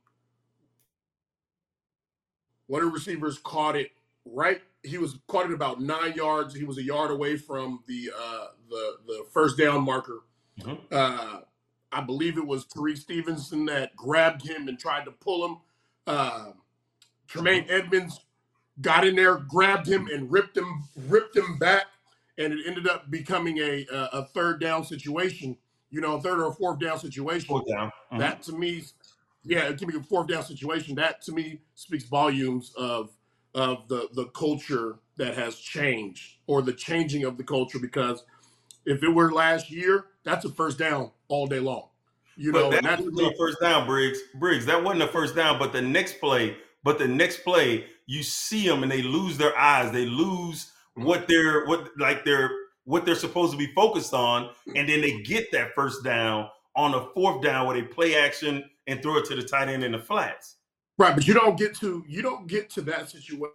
One of the receivers caught it right. He was caught it about nine yards. He was a yard away from the uh, the the first down marker. Mm-hmm. Uh, I believe it was Tariq Stevenson that grabbed him and tried to pull him. Uh, Tremaine Mm-hmm. Edmonds got in there, grabbed him, and ripped him ripped him back, and it ended up becoming a a, a third down situation. You know, a third or a fourth down situation. Fourth down. Mhm. That to me, yeah, it can be a fourth down situation. That to me speaks volumes of of the the culture that has changed, or the changing of the culture. Because if it were last year, that's a first down all day long. You But know, that and that's wasn't a first down, Briggs. Briggs, that wasn't a first down. But the next play, but the next play, you see them and they lose their eyes. They lose what they're what like they're what they're supposed to be focused on, and then they get that first down on a fourth down where they play action and throw it to the tight end in the flats. right. But you don't get to you don't get to that situation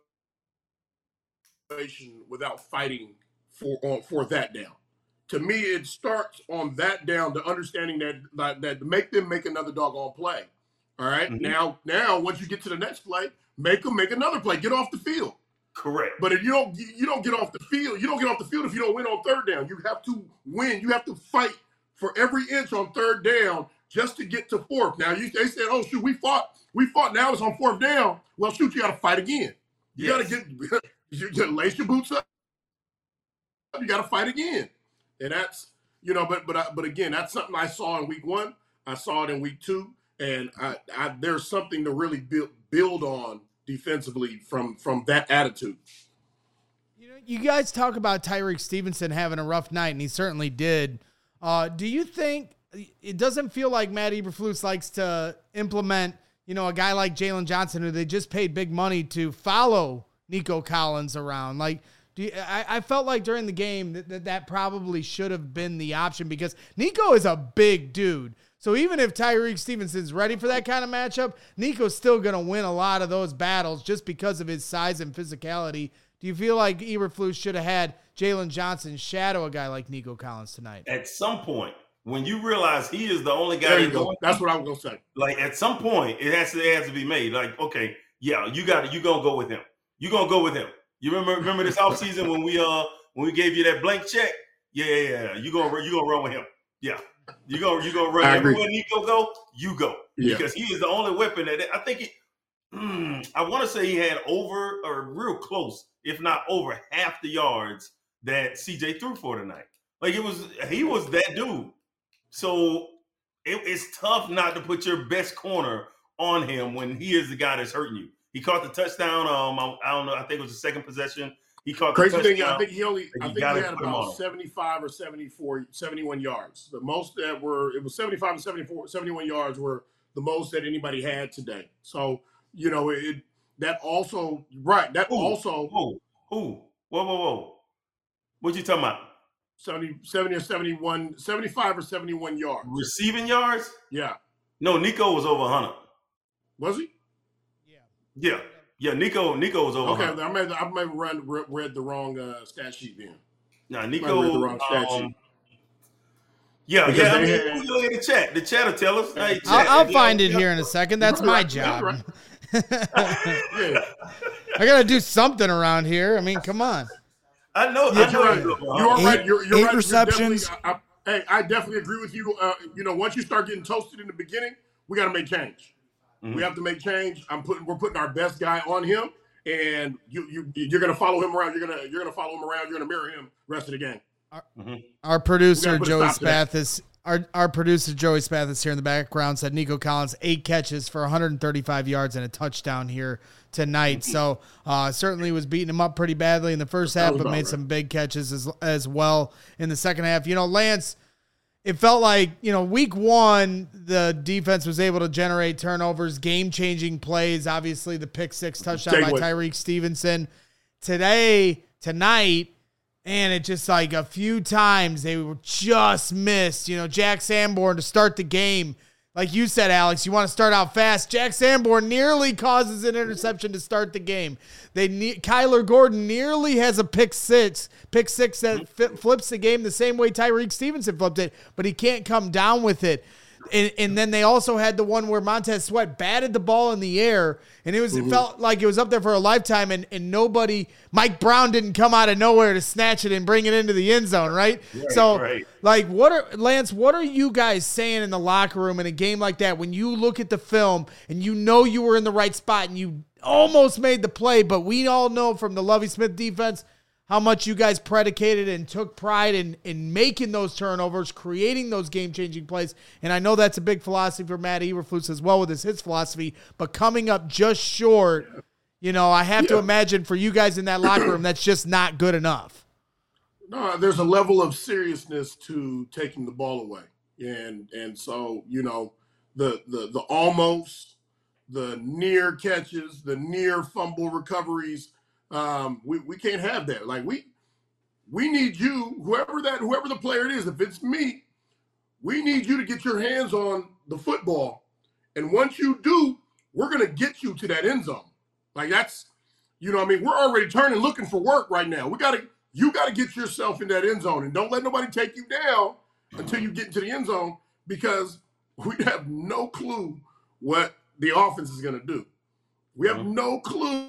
without fighting for on for that down. To me, it starts on that down, the understanding that that, that to make them make another doggone play. All right? Mhm. Now, now once you get to the next play, make them make another play. Get off the field. Correct. But if you don't you don't get off the field, you don't get off the field if you don't win on third down. You have to win. You have to fight for every inch on third down just to get to fourth. Now you they said, oh shoot, we fought, we fought. Now it's on fourth down. Well, shoot, you got to fight again. You Yes. got to get you gotta lace your boots up. You got to fight again, and that's you know. But but I, but again, that's something I saw in week one. I saw it in week two, and I, I there's something to really build build on defensively from from that attitude. You know, you guys talk about Tyreek Stevenson having a rough night, and he certainly did. Uh, do you think it doesn't feel like Matt Eberflus likes to implement, you know, a guy like Jalen Johnson, who they just paid big money to follow Nico Collins around? Like, do you, I, I felt like during the game that, that that probably should have been the option, because Nico is a big dude. So even if Tyreek Stevenson's ready for that kind of matchup, Nico's still going to win a lot of those battles just because of his size and physicality. Do you feel like Eberflus should have had Jalen Johnson shadow a guy like Nico Collins tonight? At some point, when you realize he is the only guy There you that's go. going, That's what I was gonna say. like at some point it has to it has to be made. Like, okay, yeah, you got to you gonna go with him. You gonna go with him. You remember remember this offseason when we uh when we gave you that blank check? Yeah, yeah, yeah. You gonna you gonna run with him. Yeah. You gonna you gonna run I agree. everywhere Nico go, you go. Yeah. Because he is the only weapon that I think he mm, I want to say he had over or real close, if not over half the yards that C J threw for tonight. Like it was he was that dude. So it, it's tough not to put your best corner on him when he is the guy that's hurting you. He caught the touchdown. Um, I, I don't know. I think it was the second possession. He caught Crazy the thing, touchdown. I think he only, You I think gotta he had put him about on. seventy-five or seventy-four, seventy-one yards. The most that were, it was seventy-five and seventy-four, seventy-one yards were the most that anybody had today. So, you know, it that also, right, that Who? also, Who? Who? Whoa, whoa, whoa. What you talking about? seventy, seventy or seventy-one, seventy-five or seventy-one yards. Receiving yards? Yeah. No, Nico was over one hundred. Was he? Yeah. Yeah, Nico Nico was over Okay, one hundred. I may, I may have read, read the wrong uh, stat sheet then. Nah, I Nico. read the wrong stat um, sheet. yeah, Because yeah. I they mean, had- we look at the chat. The chat will tell us. Hey, chat, I'll, I'll yeah, find it yeah. here in a second. That's my Right, job. right. Yeah. I got to do something around here. I mean, come on. I know. Yeah, I know. you're right. he's over one You are hundred. right. You're, you're eight right. You're receptions. definitely- I, I, hey, I definitely agree with you. Uh, you know, once you start getting toasted in the beginning, we got to make change. Mhm. We have to make change. I'm putting. We're putting our best guy on him, and you you you're gonna follow him around. You're gonna you're gonna follow him around. You're gonna mirror him rest of the game. Our producer, We gotta put a Joey stop to that. Spathis, our, our producer, Joey Spathis here in the background said Nico Collins, eight catches for one hundred thirty-five yards and a touchdown here tonight. So uh, certainly was beating him up pretty badly in the first half, was but about made right. some big catches as, as well in the second half. You know, Lance, it felt like, you know, week one, the defense was able to generate turnovers, game-changing plays. Obviously, the pick six touchdown Take by what- Tyreek Stevenson. Today, tonight, and it just like a few times they were just missed. You know, Jack Sanborn to start the game. Like you said, Alex, you want to start out fast. Jack Sanborn nearly causes an interception to start the game. They ne- Kyler Gordon nearly has a pick six, pick six that fi- flips the game the same way Tyreek Stevenson flipped it, but he can't come down with it. And, and then they also had the one where Montez Sweat batted the ball in the air, and it was it felt like it was up there for a lifetime, and, and nobody, Mike Brown didn't come out of nowhere to snatch it and bring it into the end zone, right? Right, so, right. like, what are, Lance, what are you guys saying in the locker room in a game like that when you look at the film and you know you were in the right spot and you almost made the play, but we all know from the Lovie Smith defense how much you guys predicated and took pride in, in making those turnovers, creating those game-changing plays. And I know that's a big philosophy for Matt Eberflus as well with his, his philosophy, but coming up just short, you know, I have to Yeah. imagine for you guys in that locker room, that's just not good enough. No, there's a level of seriousness to taking the ball away, and and so you know the the the almost, the near catches, the near fumble recoveries. Um, we we can't have that. Like we we need you, whoever that whoever the player it is. If it's me, we need you to get your hands on the football, and once you do, we're gonna get you to that end zone. Like that's, you know, what I mean, we're already turning looking for work right now. We gotta. You got to get yourself in that end zone, and don't let nobody take you down until you get into the end zone, because we have no clue what the offense is going to do. We have Mhm. no clue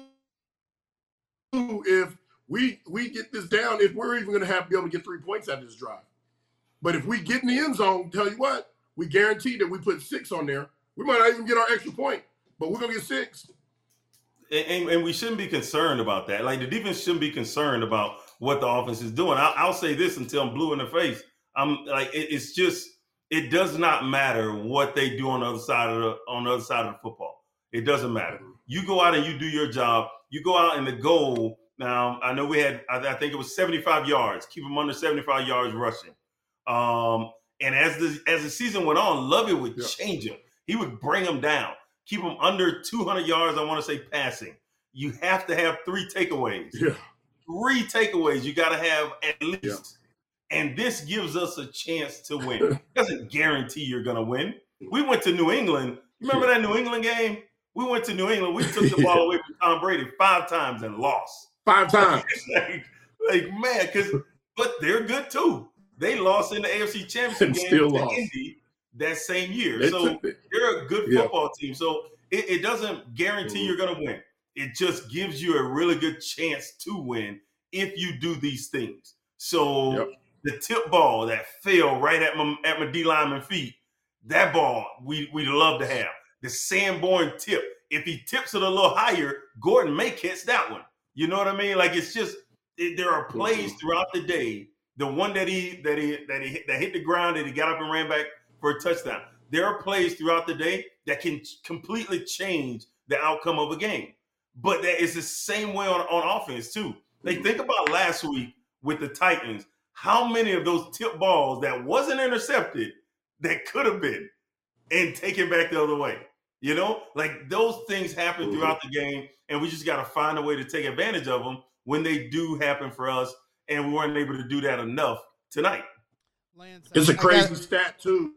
if we we get this down, if we're even going to have to be able to get three points out of this drive. But if we get in the end zone, tell you what, we guarantee that we put six on there. We might not even get our extra point, but we're going to get six. And, and, and we shouldn't be concerned about that. Like the defense shouldn't be concerned about what the offense is doing. I'll, I'll say this until I'm blue in the face. I'm like, it, it's just, it does not matter what they do on the other side of the on the other side of the football. It doesn't matter. You go out and you do your job. You go out and the goal. Now I know we had, I, I think it was seventy-five yards. Keep them under seventy-five yards rushing. Um, and as the as the season went on, Lovey would Yeah. change him. He would bring them down. Keep them under two hundred yards, I want to say, passing. You have to have three takeaways. Yeah. Three takeaways you got to have at least. Yeah. And this gives us a chance to win. It doesn't guarantee you're going to win. We went to New England. Remember that New England game? We went to New England. We took the ball away from Tom Brady five times and lost. Five times. like, like, man, because but they're good too. They lost in the A F C Championship And game still to lost. Indy that same year. They So took it. they're a good Yeah. football team. So it, it doesn't guarantee Mhm. you're going to win. It just gives you a really good chance to win if you do these things. So Yep. the tip ball that fell right at my at my D lineman feet, that ball we we'd love to have. The Sanborn tip. If he tips it a little higher, Gordon may catch that one. You know what I mean? Like it's just it, there are plays Mhm. throughout the day. The one that he that he that he hit, that hit the ground that he got up and ran back for a touchdown. There are plays throughout the day that can completely change the outcome of a game. But that is the same way on, on offense too. Like think about last week with the Titans. How many of those tip balls that wasn't intercepted that could have been and taken back the other way? You know, like those things happen throughout the game, and we just got to find a way to take advantage of them when they do happen for us. And we weren't able to do that enough tonight. Lance, It's I- a I crazy got- stat too.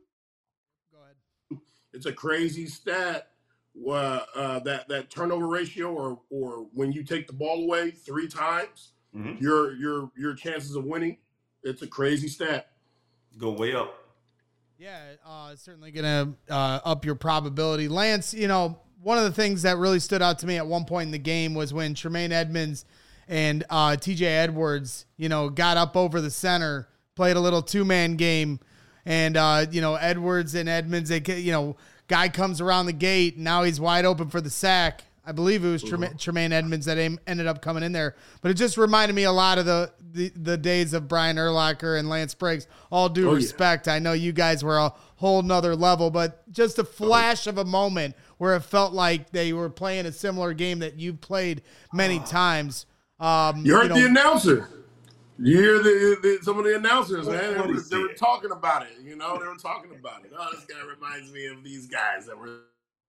Go ahead. It's a crazy stat. Uh, uh, that that turnover ratio, or or when you take the ball away three times, Mhm. your your your chances of winning. It's a crazy stat. Go way up. Yeah, uh, it's certainly going to uh, up your probability. Lance, you know, one of the things that really stood out to me at one point in the game was when Tremaine Edmonds and uh, T J Edwards, you know, got up over the center, played a little two-man game, and, uh, you know, Edwards and Edmonds, they, you know, guy comes around the gate, and now he's wide open for the sack. I believe it was Tremaine, Tremaine Edmonds that aim, ended up coming in there. But it just reminded me a lot of the the, the days of Brian Urlacher and Lance Briggs. All due Oh, yeah. respect, I know you guys were a whole nother level, but just a flash of a moment where it felt like they were playing a similar game that you've played many times. Um, You heard know, the announcer. You hear the, the some of the announcers, What- man. They what he were, they were said. talking about it. You know, they were talking about it. Oh, this guy reminds me of these guys that were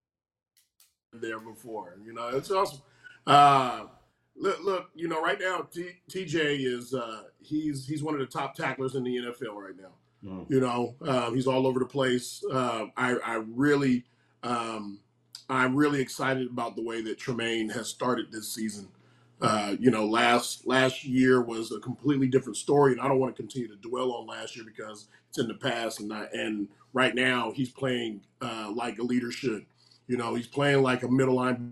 there before. You know, it's awesome. Uh, look, look, you know, right now T, TJ is uh, he's he's one of the top tacklers in the N F L right now. Mm. You know, um, he's all over the place. Uh, I, I really, um, I'm really excited about the way that Tremaine has started this season. Uh, you know, last last year was a completely different story, and I don't want to continue to dwell on last year because it's in the past. And I, and right now, he's playing uh, like a leader should. You know, he's playing like a middle linebacker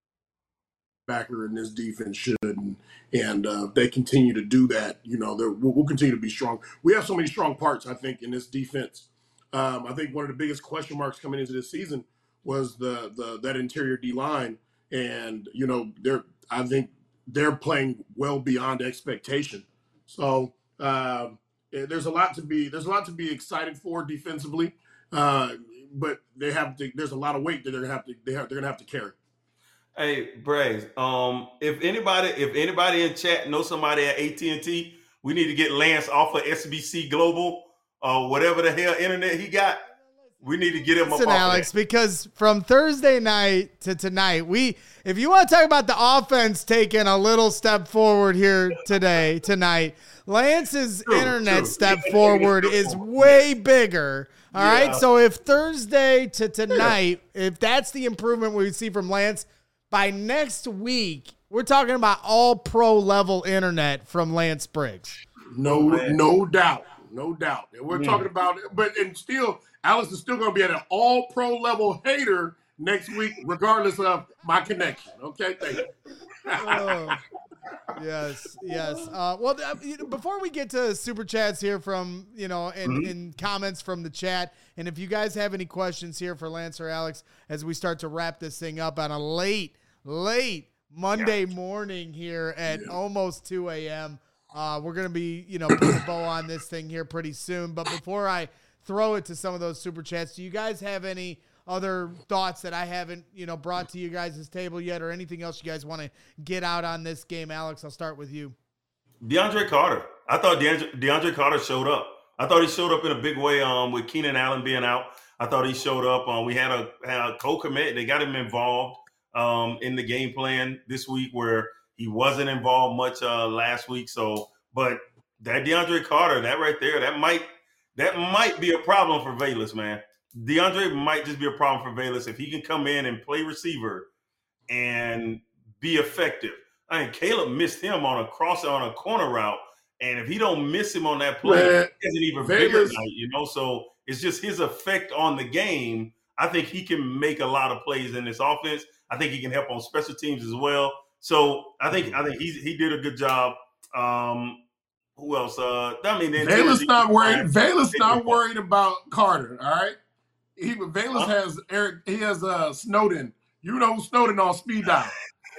in this defense should, and, and uh, if they continue to do that, you know, we'll, we'll continue to be strong. We have so many strong parts, I think, in this defense. Um, I think one of the biggest question marks coming into this season was the the that interior D line, and you know, they're I think they're playing well beyond expectation. So um, there's a lot to be there's a lot to be excited for defensively, uh, but they have to. There's a lot of weight that they're gonna have to they have, they're gonna have to carry. Hey, Braggs, um, if anybody if anybody in chat knows somebody at A T and T, we need to get Lance off of S B C Global or whatever the hell internet he got. We need to get him Listen, up off Alex, of that. because from Thursday night to tonight, we if you want to talk about the offense taking a little step forward here today, tonight, Lance's True, internet true. step Yeah, forward yeah, is yeah. way bigger. All Yeah. right. So if Thursday to tonight, if that's the improvement we see from Lance, by next week, we're talking about all pro level internet from Lance Briggs. No, man. no doubt, no doubt. And we're Yeah. talking about, but and still, Alex is still going to be at an all pro level hater next week, regardless of my connection. Okay, thank you. Oh, yes, yes. Uh, well, uh, you know, before we get to super chats here from, you know, and, Mhm. and comments from the chat, and if you guys have any questions here for Lance or Alex as we start to wrap this thing up on a late, late Monday morning here at Yeah. almost two a.m., uh, we're going to be, you know, putting a bow on this thing here pretty soon. But before I throw it to some of those super chats, do you guys have any other thoughts that I haven't, you know, brought to you guys' table yet, or anything else you guys want to get out on this game? Alex, I'll start with you. DeAndre Carter. I thought DeAndre, DeAndre Carter showed up. I thought he showed up in a big way um, with Keenan Allen being out. I thought he showed up. Um, we had a, had a co-commit. They got him involved um, in the game plan this week where he wasn't involved much uh, last week. So, but that DeAndre Carter, that right there, that might that might be a problem for Velus, man. DeAndre might just be a problem for Velus if he can come in and play receiver and be effective. I mean, Caleb missed him on a cross on a corner route, And if he don't miss him on that play, Man, it's an even Vegas- bigger night, you know? So it's just his effect on the game. I think he can make a lot of plays in this offense. I think he can help on special teams as well. So I think I think he's, he did a good job. Um, who else? Uh, I mean, then Bayless not worried. Bayless Hey, not worried about Carter. All right. He Bayless Huh? has Eric. He has uh, Snowden. You know Snowden on speed dial.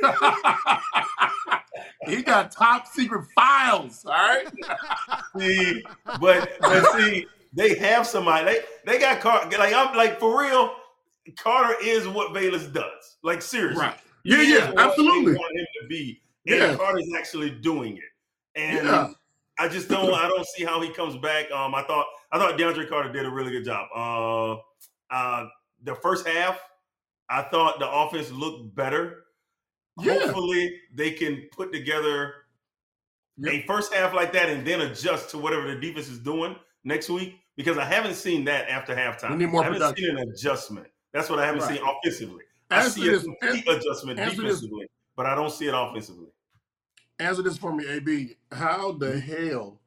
He got top secret files. All right. see, but but see, they have somebody. They they got Carter. Like I'm like for real. Carter is what Bayless does. Like seriously, Right. Yeah, He is yeah, what they absolutely. want him to be, and Yeah. Carter's actually doing it. And Yeah. I just don't. I don't see how he comes back. Um, I thought I thought DeAndre Carter did a really good job. Uh, uh, the first half, I thought the offense looked better. Yeah. Hopefully, they can put together Yep. a first half like that and then adjust to whatever the defense is doing next week. Because I haven't seen that after halftime. We need more I haven't production. seen an adjustment. That's what I haven't Right. seen offensively. I Answer see a this- complete adjustment answer this- defensively, but I don't see it offensively. Answer this for me, A B. How the hell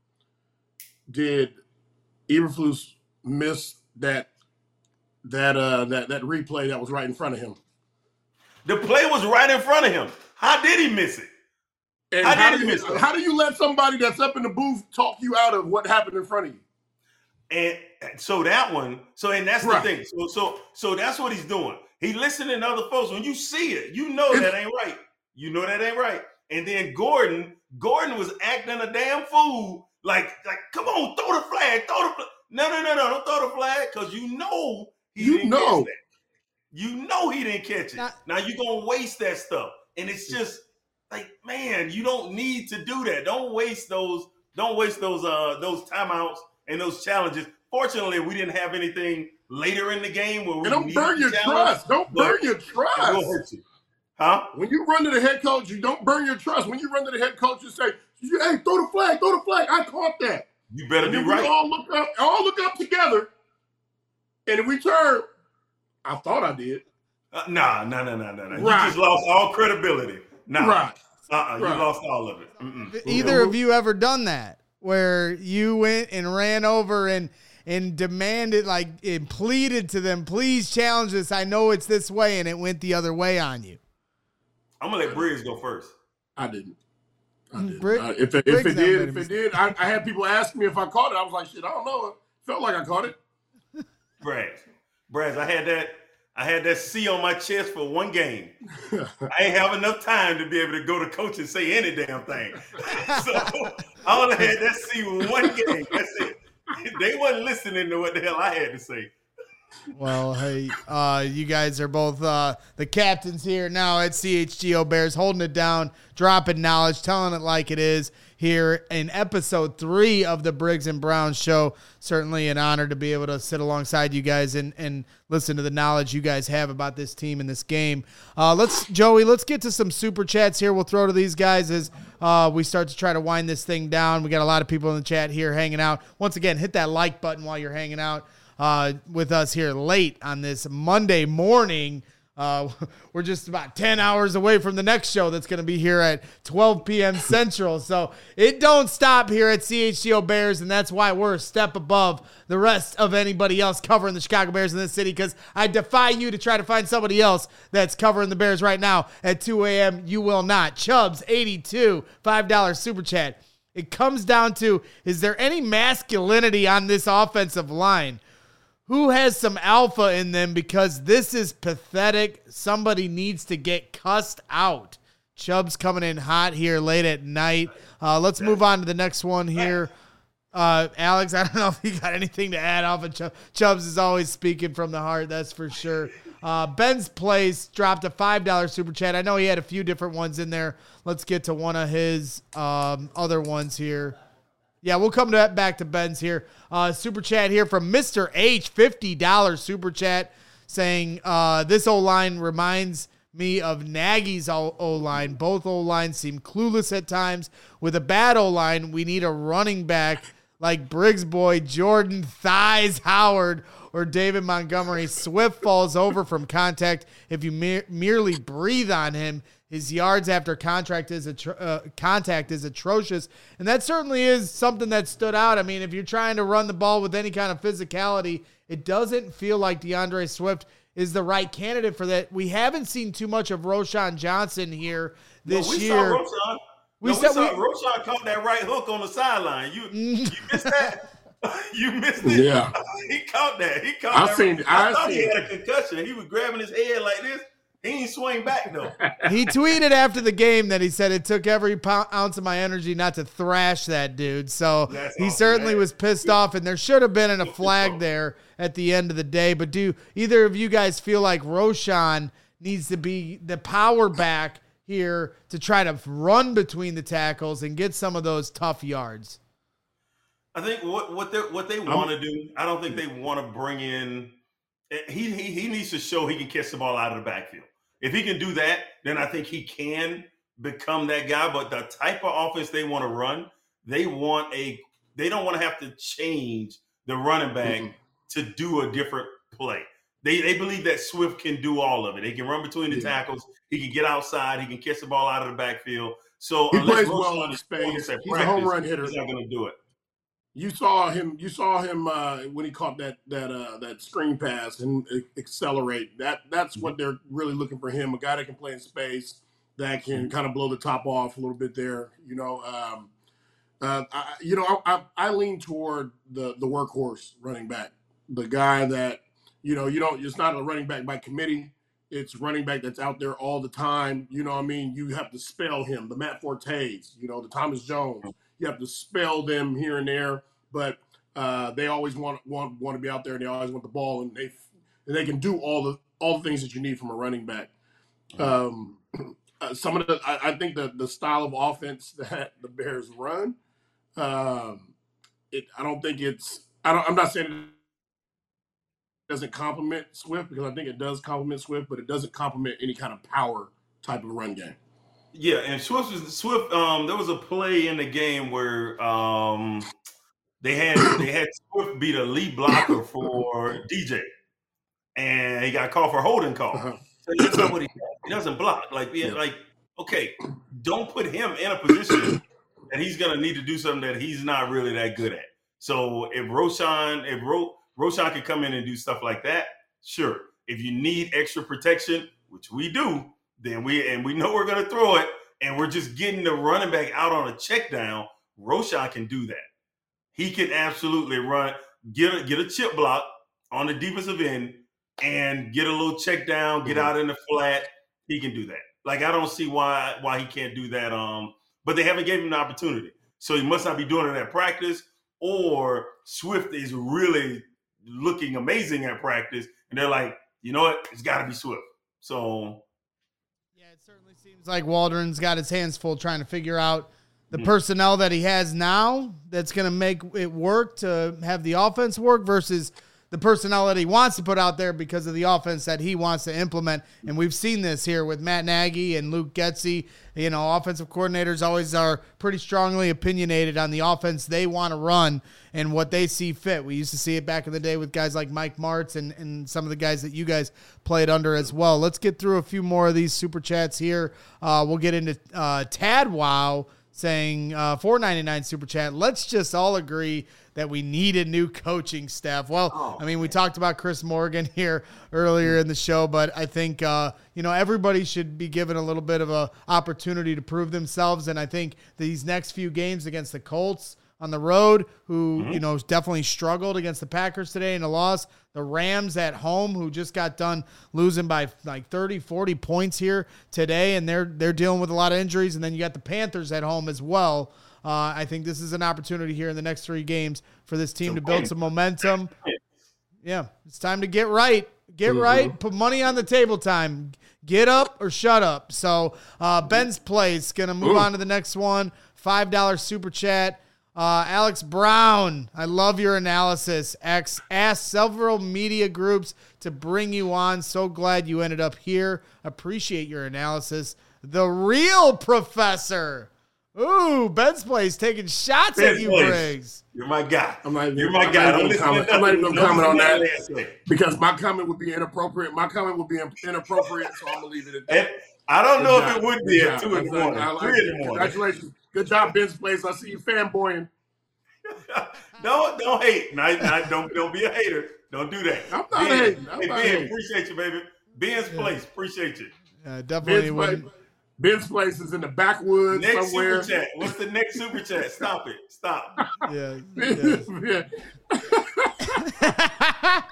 did Eberflus miss that that uh that that replay that was right in front of him? The play was right in front of him. How did he miss it? And How how, did do he you miss it? how do you let somebody that's up in the booth talk you out of what happened in front of you? And so that one, so and that's Right. the thing. So so so that's what he's doing. He listening to other folks. When you see it, you know It's- that ain't right. You know that ain't right. And then Gordon, Gordon was acting a damn fool. Like, like, come on, throw the flag, throw the flag. No, no, no, no, don't throw the flag because you know he You didn't know. catch that. You know he didn't catch it. Not- now you're gonna waste that stuff. And it's just like, man, you don't need to do that. Don't waste those, don't waste those uh those timeouts and those challenges. Fortunately, we didn't have anything later in the game where we And don't needed burn the your challenge, trust. Don't but burn your It trust. will hurt you. Huh? When you run to the head coach, you don't burn your trust. When you run to the head coach, you say, "Hey, throw the flag, throw the flag." I caught that. You better And be then we right. all look up, all look up together, and if we turn, I thought I did. Uh, nah, nah, nah, nah, nah, nah. Right. You just lost all credibility. Nah. Right. Uh-uh. You Right. lost all of it. Mm-mm. Either of you ever done that where you went and ran over and and demanded, like, and pleaded to them, please challenge this. I know it's this way, and it went the other way on you. I'm gonna let Briggs go first. I didn't. I didn't. Brig- I- if it, if Briggs it never did, made if a it did, I, I had people ask me if I caught it. I was like, shit, I don't know. It felt like I caught it. Brad. Brad, I had that I had that C on my chest for one game. I ain't have enough time to be able to go to coach and say any damn thing. So I only had that C one game. That's it. They wasn't listening to what the hell I had to say. Well, hey, uh, you guys are both uh, the captains here now at C H G O Bears, holding it down, dropping knowledge, telling it like it is here in episode three of the Briggs and Brown show. Certainly an honor to be able to sit alongside you guys and, and listen to the knowledge you guys have about this team and this game. Uh, let's, Joey, let's get to some super chats here. We'll throw to these guys as uh, we start to try to wind this thing down. We got a lot of people in the chat here hanging out. Once again, hit that like button while you're hanging out uh, with us here late on this Monday morning. Uh, we're just about ten hours away from the next show that's going to be here at twelve p.m. Central. So it don't stop here at C H G O Bears, and that's why we're a step above the rest of anybody else covering the Chicago Bears in this city, because I defy you to try to find somebody else that's covering the Bears right now at two a.m. You will not. Chubbs, eighty-two, five dollars super chat. It comes down to, is there any masculinity on this offensive line? Who has some alpha in them? Because this is pathetic. Somebody needs to get cussed out. Chubb's coming in hot here late at night. Uh, let's move on to the next one here. Uh, Alex, I don't know if you got anything to add off of Chubb. Chubbs is always speaking from the heart, that's for sure. Uh, Ben's Place dropped a five dollars super chat. I know he had a few different ones in there. Let's get to one of his um, other ones here. Yeah, we'll come to that, back to Ben's here. Uh, super chat here from Mister H, fifty dollars super chat, saying uh, this O-line reminds me of Nagy's O-line. Both O-lines seem clueless at times. With a bad O-line, we need a running back like Briggs boy Jordan Thighs Howard or David Montgomery. Swift falls over from contact if you mere- merely breathe on him. His yards after contract is atro- uh, contact is atrocious, and that certainly is something that stood out. I mean, if you're trying to run the ball with any kind of physicality, it doesn't feel like DeAndre Swift is the right candidate for that. We haven't seen too much of Roschon Johnson here this no, we year. Saw Roschon. We, no, saw, we saw we, Roschon caught that right hook on the sideline. You you missed that. You missed it. Yeah, he caught that. He caught I that. seen. Right. I, I thought seen. he had a concussion. He was grabbing his head like this. He ain't swing back though. He tweeted after the game that he said it took every pound, ounce of my energy not to thrash that dude. So That's he awesome, certainly man. was pissed off, and there should have been a flag there at the end of the day. But do either of you guys feel like Roschon needs to be the power back here to try to run between the tackles and get some of those tough yards? I think what what they what they want to do. I don't think they want to bring in. He, he he needs to show he can catch the ball out of the backfield. If he can do that, then I think he can become that guy. But the type of offense they want to run, they want a. They don't want to have to change the running back mm-hmm. to do a different play. They they believe that Swift can do all of it. He can run between the yeah. tackles. He can get outside. He can catch the ball out of the backfield. So he unless plays well in space. He's practice, a home run hitter. He's not going to do it. You saw him. You saw him uh, when he caught that that uh, that screen pass and accelerate. That that's what they're really looking for him. A guy that can play in space, that can kind of blow the top off a little bit there. You know, um, uh, I, you know, I, I, I lean toward the the workhorse running back, the guy that you know you don't. It's not a running back by committee. It's running back that's out there all the time. You know what I mean? You have to spell him. The Matt Fortes, you know, the Thomas Jones. You have to spell them here and there, but uh, they always want want want to be out there, and they always want the ball, and they and they can do all the all the things that you need from a running back. Um, uh, some of the I, I think the the style of offense that the Bears run, um, it I don't think it's I don't I'm not saying it doesn't complement Swift, because I think it does complement Swift, but it doesn't complement any kind of power type of run game. Yeah, and Swift was Swift. Um, there was a play in the game where um, they had they had Swift beat a lead blocker for D J, and he got called for holding call. Uh-huh. So that's not what he does. He doesn't block. Like, yeah, like okay, don't put him in a position that he's gonna need to do something that he's not really that good at. So if Roschon, if Ro, Roschon can come in and do stuff like that, sure. If you need extra protection, which we do. Then we and we know we're going to throw it, and we're just getting the running back out on a check down. Roschon can do that. He can absolutely run, get a, get a chip block on the defensive end, and get a little check down, get mm-hmm. out in the flat. He can do that. Like, I don't see why why he can't do that. Um, but they haven't given him the opportunity, so he must not be doing it at practice, or Swift is really looking amazing at practice, and they're like, you know what, it's got to be Swift. So. It certainly seems like Waldron's got his hands full trying to figure out the mm-hmm. personnel that he has now that's going to make it work to have the offense work versus the personnel that he wants to put out there because of the offense that he wants to implement. And we've seen this here with Matt Nagy and Luke Getsy. You know, offensive coordinators always are pretty strongly opinionated on the offense they want to run and what they see fit. We used to see it back in the day with guys like Mike Martz and, and some of the guys that you guys played under as well. Let's get through a few more of these super chats here. Uh, we'll get into uh, Tad Wow saying uh, four ninety-nine super chat. Let's just all agree that we need a new coaching staff. Well, oh, I mean, we talked about Chris Morgan here earlier in the show, but I think, uh, you know, everybody should be given a little bit of a opportunity to prove themselves. And I think these next few games against the Colts on the road, who, mm-hmm. you know, definitely struggled against the Packers today in a loss, the Rams at home, who just got done losing by like thirty, forty points here today, and they're they're dealing with a lot of injuries. And then you got the Panthers at home as well. Uh, I think this is an opportunity here in the next three games for this team to build some momentum. Yeah, it's time to get right. Get mm-hmm. right. Put money on the table time. Get up or shut up. So uh, Ben's Place, going to move Ooh. on to the next one. five dollars super chat. Uh, Alex Brown, I love your analysis. X asked several media groups to bring you on. So glad you ended up here. Appreciate your analysis. The real professor. Ooh, Ben's Place taking shots Ben's at you, Place. Briggs. You're my guy. I'm not even, You're my I'm guy. not Don't even listen comment. to I'm not even nothing. gonna comment on Don't that listen to that. because my comment would be inappropriate. My comment would be inappropriate, so I'm gonna leave it at that. And I don't Good know job. if it would Good be job. at two in the That's- morning, I like three it. in the morning. Congratulations. Good job, Ben's Place. I see you fanboying. don't don't hate. Not, not, don't don't be a hater. Don't do that. I'm not Ben, hating. I'm hey, not Ben, hating. appreciate you, baby. Ben's Yeah. Place, appreciate you. Uh, definitely Ben's wouldn't. Place, Ben's Place is in the backwoods Next somewhere. super chat. What's the next super chat? Stop it. Stop. Yeah. yeah. Yeah.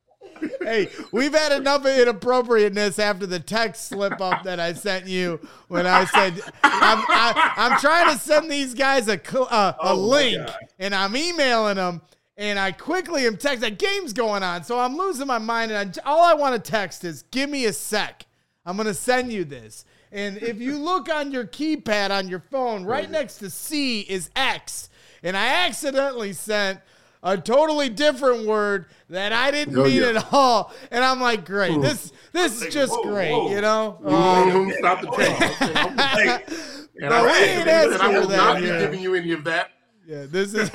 Hey, we've had enough of inappropriateness after the text slip up that I sent you when I said I'm, I, I'm trying to send these guys a cl- uh, a Oh, my link, God. and I'm emailing them, and I quickly am texting. That game's going on, so I'm losing my mind, and I, all I want to text is, "Give me a sec. I'm gonna send you this." And if you look on your keypad on your phone, right next to C is X, and I accidentally sent a totally different word that I didn't Oh, mean yeah. at all. And I'm like, great, this this is just Whoa, great, whoa. you know? Um, Mhm. Stop the check. Hey, And But I, we and ain't I asking will for that not be here. giving you any of that. yeah, this is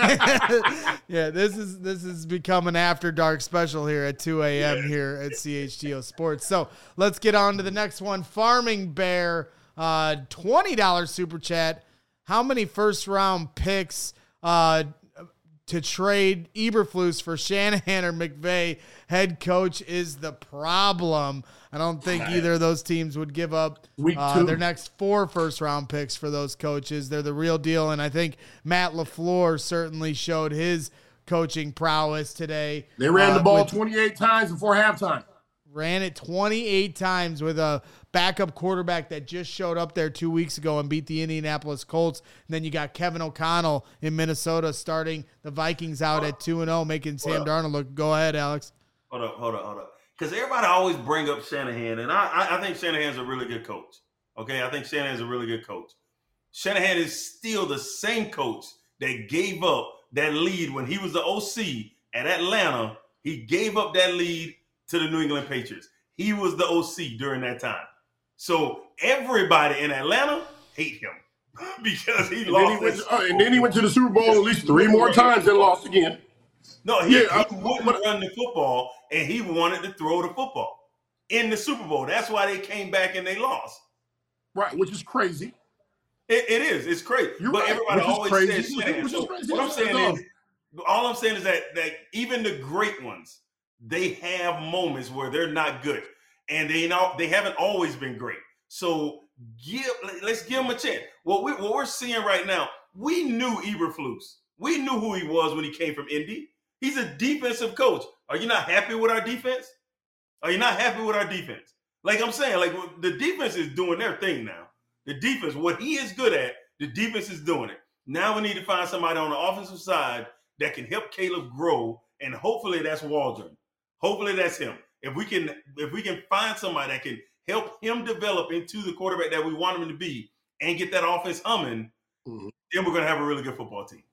yeah, this is this is become an after dark special here at two a.m. here at C H G O Sports. So let's get on to the next one. Farming Bear, uh, twenty dollars super chat. How many first round picks uh, to trade Eberflus for Shanahan or McVay head coach is the problem? I don't think either of those teams would give up Week uh, two. their next four first round picks for those coaches. They're the real deal. And I think Matt LaFleur certainly showed his coaching prowess today. They ran uh, the ball with- twenty-eight times before halftime. ran it twenty-eight times with a backup quarterback that just showed up there two weeks ago and beat the Indianapolis Colts. And then you got Kevin O'Connell in Minnesota starting the Vikings out at two and oh, making Sam Darnold look. Go ahead, Alex. Hold up, hold up, hold up. Because everybody always bring up Shanahan, and I, I, I think Shanahan's a really good coach. Okay, I think Shanahan's a really good coach. Shanahan is still the same coach that gave up that lead when he was the O C at Atlanta. He gave up that lead to the New England Patriots. He was the O C during that time. So everybody in Atlanta hate him because he And then, he lost. went his- to, uh, and then he went to the Super Bowl at least three more times and lost again. No, he, Yeah, I- he wouldn't run the football, and he wanted to throw the football in the Super Bowl. That's why they came back and they lost. Right, which is crazy. It, it is. It's crazy. You're but right, everybody which is always crazy, says which- Shanahan. which is So crazy. what I'm That's saying all. is, all I'm saying is that that even the great ones, they have moments where they're not good, and they know they haven't always been great. So give let's give them a chance. What we what we're seeing right now, we knew Eberflus. We knew who he was when he came from Indy. He's a defensive coach. Are you not happy with our defense? Are you not happy with our defense? Like I'm saying, like the defense is doing their thing now. The defense, what he is good at, the defense is doing it. Now we need to find somebody on the offensive side that can help Caleb grow, and hopefully that's Waldron. Hopefully that's him. If we can, if we can find somebody that can help him develop into the quarterback that we want him to be, and get that offense humming, Mhm. then we're gonna have a really good football team.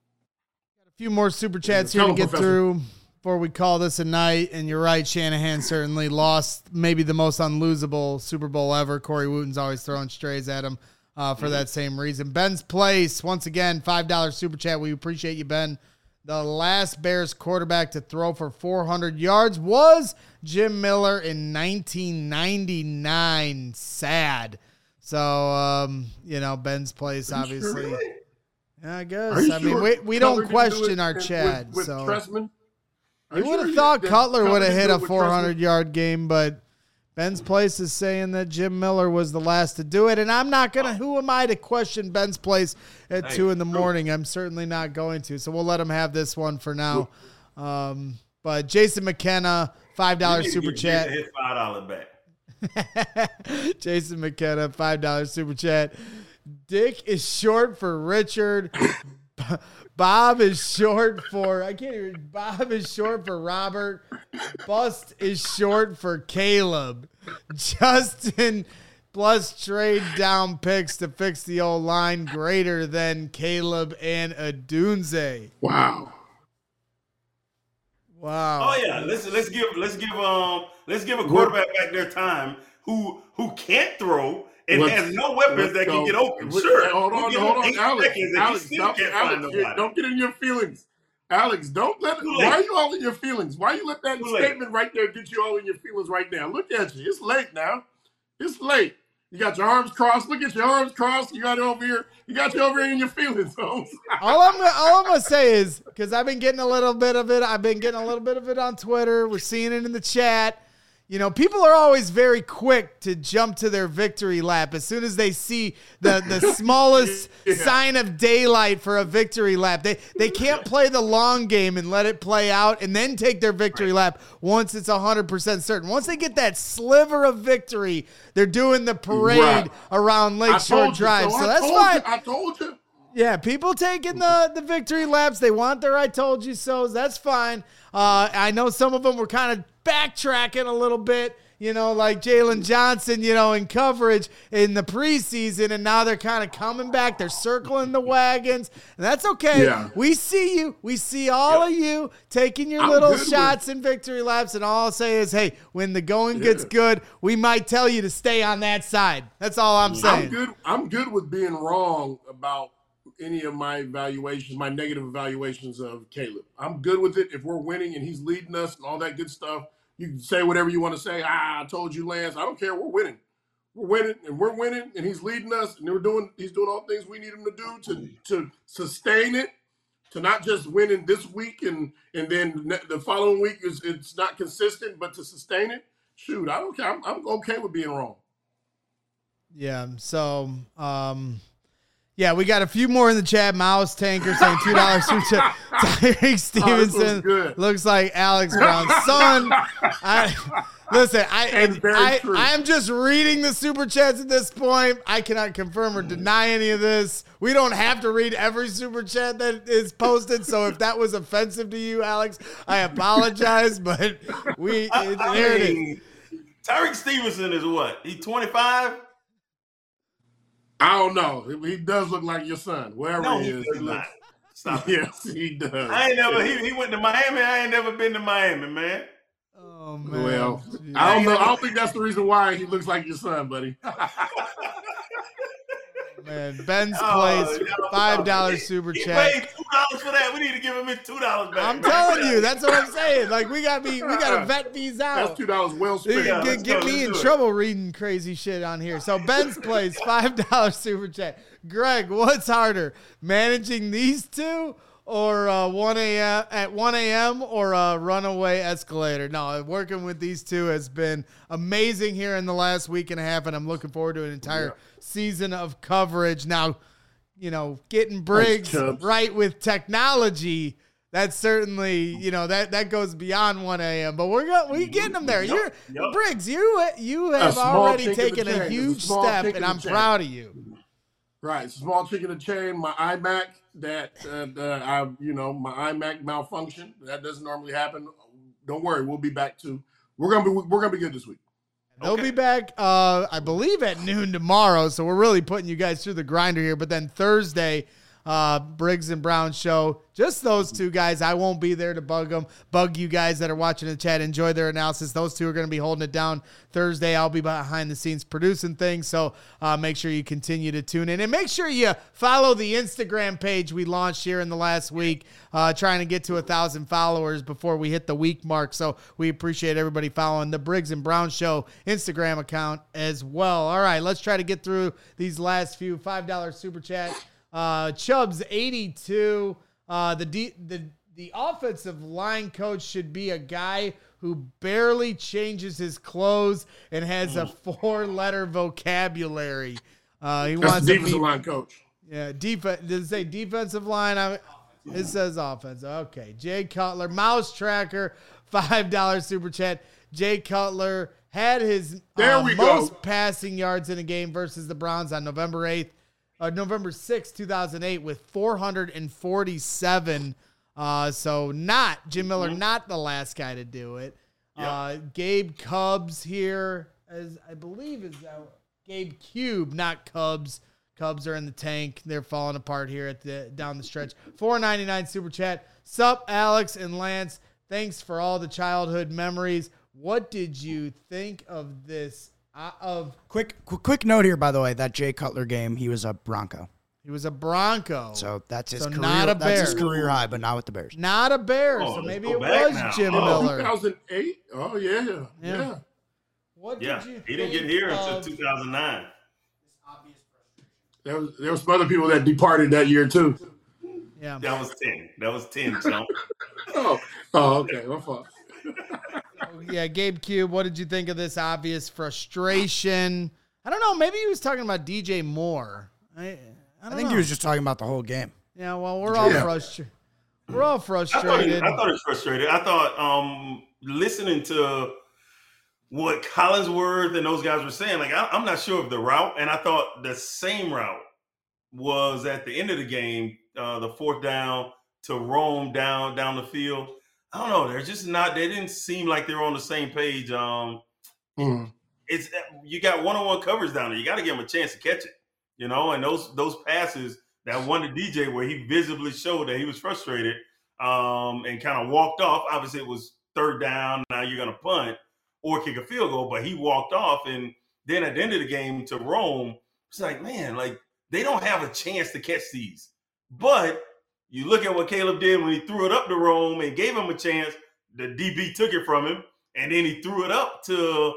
A few more super chats Tell here to him, get Professor. through before we call this a night. And you're right, Shanahan certainly lost maybe the most unlosable Super Bowl ever. Corey Wooten's always throwing strays at him uh, for that same reason. Ben's Place, once again, five dollars super chat. We appreciate you, Ben. The last Bears quarterback to throw for four hundred yards was Jim Miller in nineteen ninety-nine. Sad. So, um, you know, Ben's Place, Are you sure? obviously. Yeah, I guess. Are you I mean, sure we, we Cutler don't didn't do question it our with- Chad. With, so with Tressman? Are you you would have sure thought that Cutler would have didn't hit do a it with four Tressman? hundred yard game, but Ben's Place is saying that Jim Miller was the last to do it. And I'm not going to, who am I to question Ben's Place at Hey, two in the true. morning? I'm certainly not going to. So we'll let him have this one for now. Um, but Jason McKenna, five We dollars need to super get chat. His five dollars back. Jason McKenna, five dollars super chat. Dick is short for Richard. Bob is short for, I can't even, Bob is short for Robert. Bust is short for Caleb. Justin plus trade down picks to fix the old line greater than Caleb and Adunze. Wow. Wow. Oh yeah, let's let's give let's give um let's give a quarterback back their time who who can't throw It Let's- has no weapons that go. can get open. Let's- Sure. Hold on, We give hold him on, eight Alex. seconds and he Alex, still stop, can't find Alex, nobody. don't get in your feelings. Alex, don't let. Too Why late. are you all in your feelings? Why you let that Too late. statement right there get you all in your feelings right now? Look at you. It's late now. It's late. You got your arms crossed. Look at your arms crossed. You got it over here. You got you over here in your feelings, Holmes. all I'm gonna, all I'm gonna say is, because I've been getting a little bit of it. I've been getting a little bit of it on Twitter. We're seeing it in the chat. You know, people are always very quick to jump to their victory lap as soon as they see the, the smallest Yeah. sign of daylight for a victory lap. They they can't play the long game and let it play out and then take their victory lap once it's one hundred percent certain. Once they get that sliver of victory, they're doing the parade Right. around I Lakeshore told you Drive. so. So I that's told fine. you. I told you. Yeah, people taking the, the victory laps. They want their I told you so's. That's fine. Uh, I know some of them were kind of backtracking a little bit, you know, like Jalen Johnson, you know, in coverage in the preseason, and now they're kind of coming back. They're circling the wagons, and that's okay. Yeah. We see you. We see all Yep. of you taking your I'm little good with- shots and victory laps, and all I'll say is, hey, when the going Yeah. gets good, we might tell you to stay on that side. That's all I'm saying. I'm good. I'm good with being wrong about any of my evaluations, my negative evaluations of Caleb. I'm good with it if we're winning and he's leading us and all that good stuff. You can say whatever you want to say. Ah, I told you, Lance. I don't care. We're winning. We're winning, and we're winning, and he's leading us, and we're doing. He's doing all things we need him to do to to sustain it, to not just winning this week and and then ne- the following week is it's not consistent, but to sustain it. Shoot, I don't care. I'm, I'm okay with being wrong. Yeah. So, um, yeah, we got a few more in the chat. Mouse Tanker saying two dollars super chat. Tyreek Stevenson good. looks like Alex Brown's son. I listen. I And very I true. I am just reading the super chats at this point. I cannot confirm or deny any of this. We don't have to read every super chat that is posted. So if that was offensive to you, Alex, I apologize. But we I, it, I there it is. mean, Tyreek Stevenson is what? He twenty-five? I don't know. He does look like your son, wherever No, he he is. does he not. looks- Stop it. Yes, he does. I ain't never. He, he went to Miami. I ain't never been to Miami, man. Oh man. Well, Jeez. I don't know. I don't think that's the reason why he looks like your son, buddy. Man, Ben's Oh, place, y'all- five dollar he- super he chat. paid two dollars for that. We need to give him his two dollars back. I'm man. telling you, that's what I'm saying. Like we got to be, we got to vet these That's out. two dollars well You spent. Yeah, can let's get, get go, me let's in do it. trouble reading crazy shit on here. So Ben's place, five dollar super chat. Greg, what's harder, managing these two or uh, one a.m. at one a.m. or a runaway escalator? No, working with these two has been amazing here in the last week and a half, and I'm looking forward to an entire Yeah. season of coverage. Now, you know, getting Briggs Chubbs. right with technology, that's certainly, you know, that, that goes beyond one a.m. But we're go, we getting them there. Yup, You're yup. Briggs, you you have small already chink in the taken chain. a It's a huge small step, chink in and the I'm chain. proud of you. Right, it's a small chick in the chain. My iMac that uh, uh, I, you know, my iMac malfunctioned. That doesn't normally happen. Don't worry, we'll be back to. We're gonna be we're gonna be good this week. They'll Okay. be back, uh, I believe, at noon tomorrow. So we're really putting you guys through the grinder here. But then Thursday, uh, Briggs and Brown show. Just those two guys. I won't be there to bug them. Bug you guys that are watching the chat. Enjoy their analysis. Those two are going to be holding it down Thursday. I'll be behind the scenes producing things. So uh, make sure you continue to tune in. And make sure you follow the Instagram page we launched here in the last week, uh, trying to get to a thousand followers before we hit the week mark. So we appreciate everybody following the Briggs and Brown Show Instagram account as well. All right, let's try to get through these last few five dollar super chat. Uh, Chubbs eighty-two. Uh, the, D, the the offensive line coach should be a guy who barely changes his clothes and has a four-letter vocabulary. Uh, he That's wants the to defensive be, line coach. yeah, defense. Does it say defensive line? I, it says offense. Okay. Jay Cutler, Mouse Tracker, five dollar super chat. Jay Cutler had his There uh, we go. most passing yards in a game versus the Browns on November eighth, uh, November sixth, two thousand eight, with four hundred forty-seven. Uh, so not Jim Miller, not the last guy to do it. Yep. Uh, Gabe Cubs here, as I believe is uh, Gabe Cube, not Cubs. Cubs are in the tank. They're falling apart here at the down the stretch. four ninety-nine super chat. Sup, Alex and Lance. Thanks for all the childhood memories. What did you think of this uh, of Quick, quick, quick note here, by the way. That Jay Cutler game, he was a Bronco. he was a Bronco. So that's his So career. not a that's his Bear. career high, but not with the Bears. Not a Bear, Oh, so let's maybe go it back was now. Jim Oh. Miller. two thousand eight? Oh, yeah. Yeah. Yeah. What Yeah, did you he didn't get think here of- until two thousand nine. There was, there was some other people that departed that year, too. Yeah. That was ten. That was ten, Chump. Oh, oh okay. My fault. Yeah, Gabe Cube, what did you think of this obvious frustration? I don't know. Maybe he was talking about D J Moore. I, I, I don't think know. he was just talking about the whole game. Yeah, well, we're all Yeah. frustrated. We're all I thought, he, frustrated. I thought he was frustrated. I thought um, listening to what Collinsworth and those guys were saying, like, I, I'm not sure of the route. And I thought the same route was at the end of the game, uh, the fourth down to roam down down the field. I don't know. They're just not. They didn't seem like they were on the same page. Um, Mm. it's you got one-on-one coverage down there. You got to give him a chance to catch it, you know. And those those passes that one to D J where he visibly showed that he was frustrated um, and kind of walked off. Obviously, it was third down. Now you're going to punt or kick a field goal, but he walked off. And then at the end of the game to Rome, it's like, man, like they don't have a chance to catch these. But you look at what Caleb did when he threw it up to Rome and gave him a chance. The D B took it from him, and then he threw it up to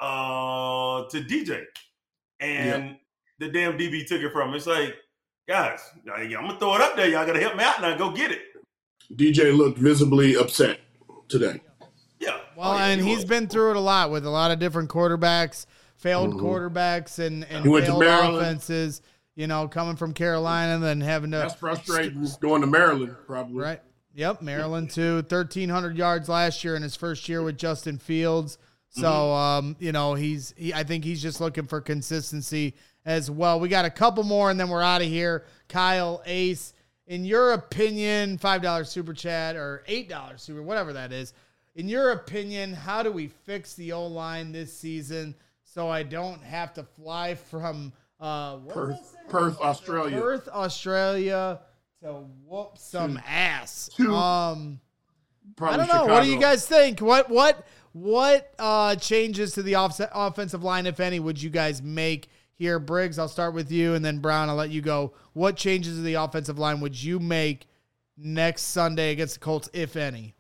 uh, to D J, and Yep. the damn D B took it from him. It's like, guys, I'm gonna throw it up there. Y'all gotta help me out now. Go get it. D J looked visibly upset today. Yeah. Well, Oh, yeah, and he he's was. been through it a lot with a lot of different quarterbacks, failed Mhm. quarterbacks, and, and He went to failed Maryland. offenses. You know, coming from Carolina and then having to That's frustrating going to Maryland, probably. right. Yep, Maryland too. thirteen hundred yards last year in his first year with Justin Fields. So, um, you know, he's he, I think he's just looking for consistency as well. We got a couple more, and then we're out of here. Kyle Ace, in your opinion, five dollars super chat or eight dollars super, whatever that is. In your opinion, how do we fix the O-line this season so I don't have to fly from uh, what was Perth, that? Perth, Australia. Perth, Australia to whoop some ass. to Um, Probably I don't know. Chicago. What do you guys think? What what what uh, changes to the off- offensive line, if any, would you guys make here? Briggs, I'll start with you, and then Brown, I'll let you go. What changes to the offensive line would you make next Sunday against the Colts, if any?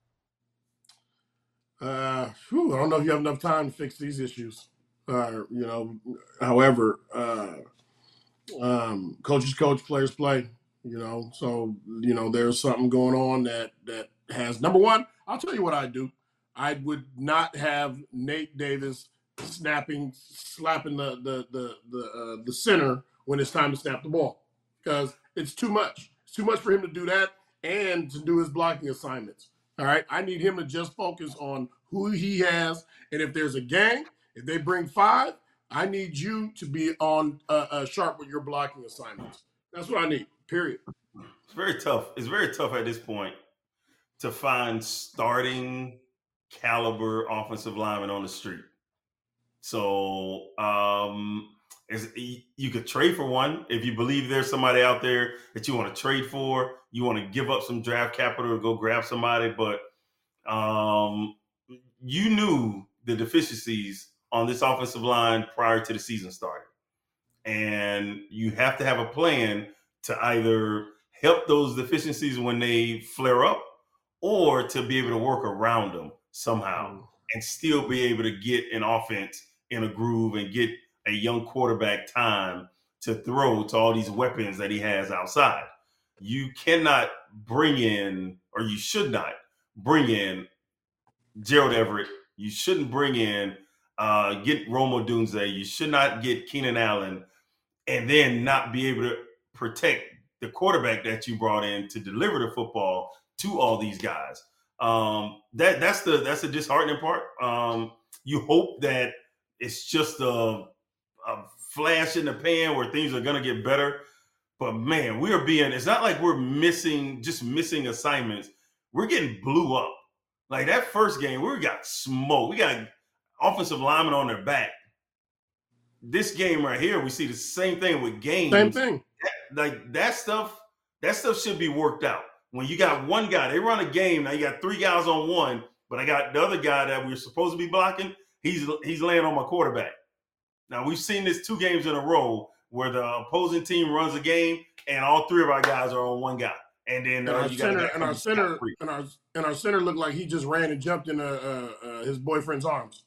Uh, whew, I don't know if you have enough time to fix these issues. Uh, you know, however, uh, um, coaches coach, players play. You know, so you know there's something going on that that has number one. I'll tell you what I do. I would not have Nate Davis snapping, slapping the the the the, uh, the center when it's time to snap the ball because it's too much. It's too much for him to do that and to do his blocking assignments. All right, I need him to just focus on who he has, and if there's a gang, if they bring five, I need you to be on uh, uh, sharp with your blocking assignments. That's what I need. Period. It's very tough. It's very tough at this point to find starting caliber offensive linemen on the street. So um, is, you could trade for one if you believe there's somebody out there that you want to trade for. You want to give up some draft capital to go grab somebody, but um, you knew the deficiencies on this offensive line prior to the season starting. And you have to have a plan to either help those deficiencies when they flare up or to be able to work around them somehow and still be able to get an offense in a groove and get a young quarterback time to throw to all these weapons that he has outside. You cannot bring in, or you should not bring in Gerald Everett. You shouldn't bring in, uh, get Rome Odunze. You should not get Keenan Allen and then not be able to protect the quarterback that you brought in to deliver the football to all these guys. Um, that that's the that's the disheartening part. Um, you hope that it's just a, a flash in the pan where things are going to get better. But man, we are being, it's not like we're missing, just missing assignments. We're getting blew up. Like that first game, we got smoked. We got offensive linemen on their back. This game right here, we see the same thing with games. Same thing. That, like that stuff, that stuff should be worked out. When you got one guy, they run a game, now you got three guys on one, but I got the other guy that we're supposed to be blocking, he's he's laying on my quarterback. Now, we've seen this two games in a row where the opposing team runs a game and all three of our guys are on one guy. And then and uh, our you center, got and our center, and our and our center looked like he just ran and jumped in uh, uh, uh, his boyfriend's arms.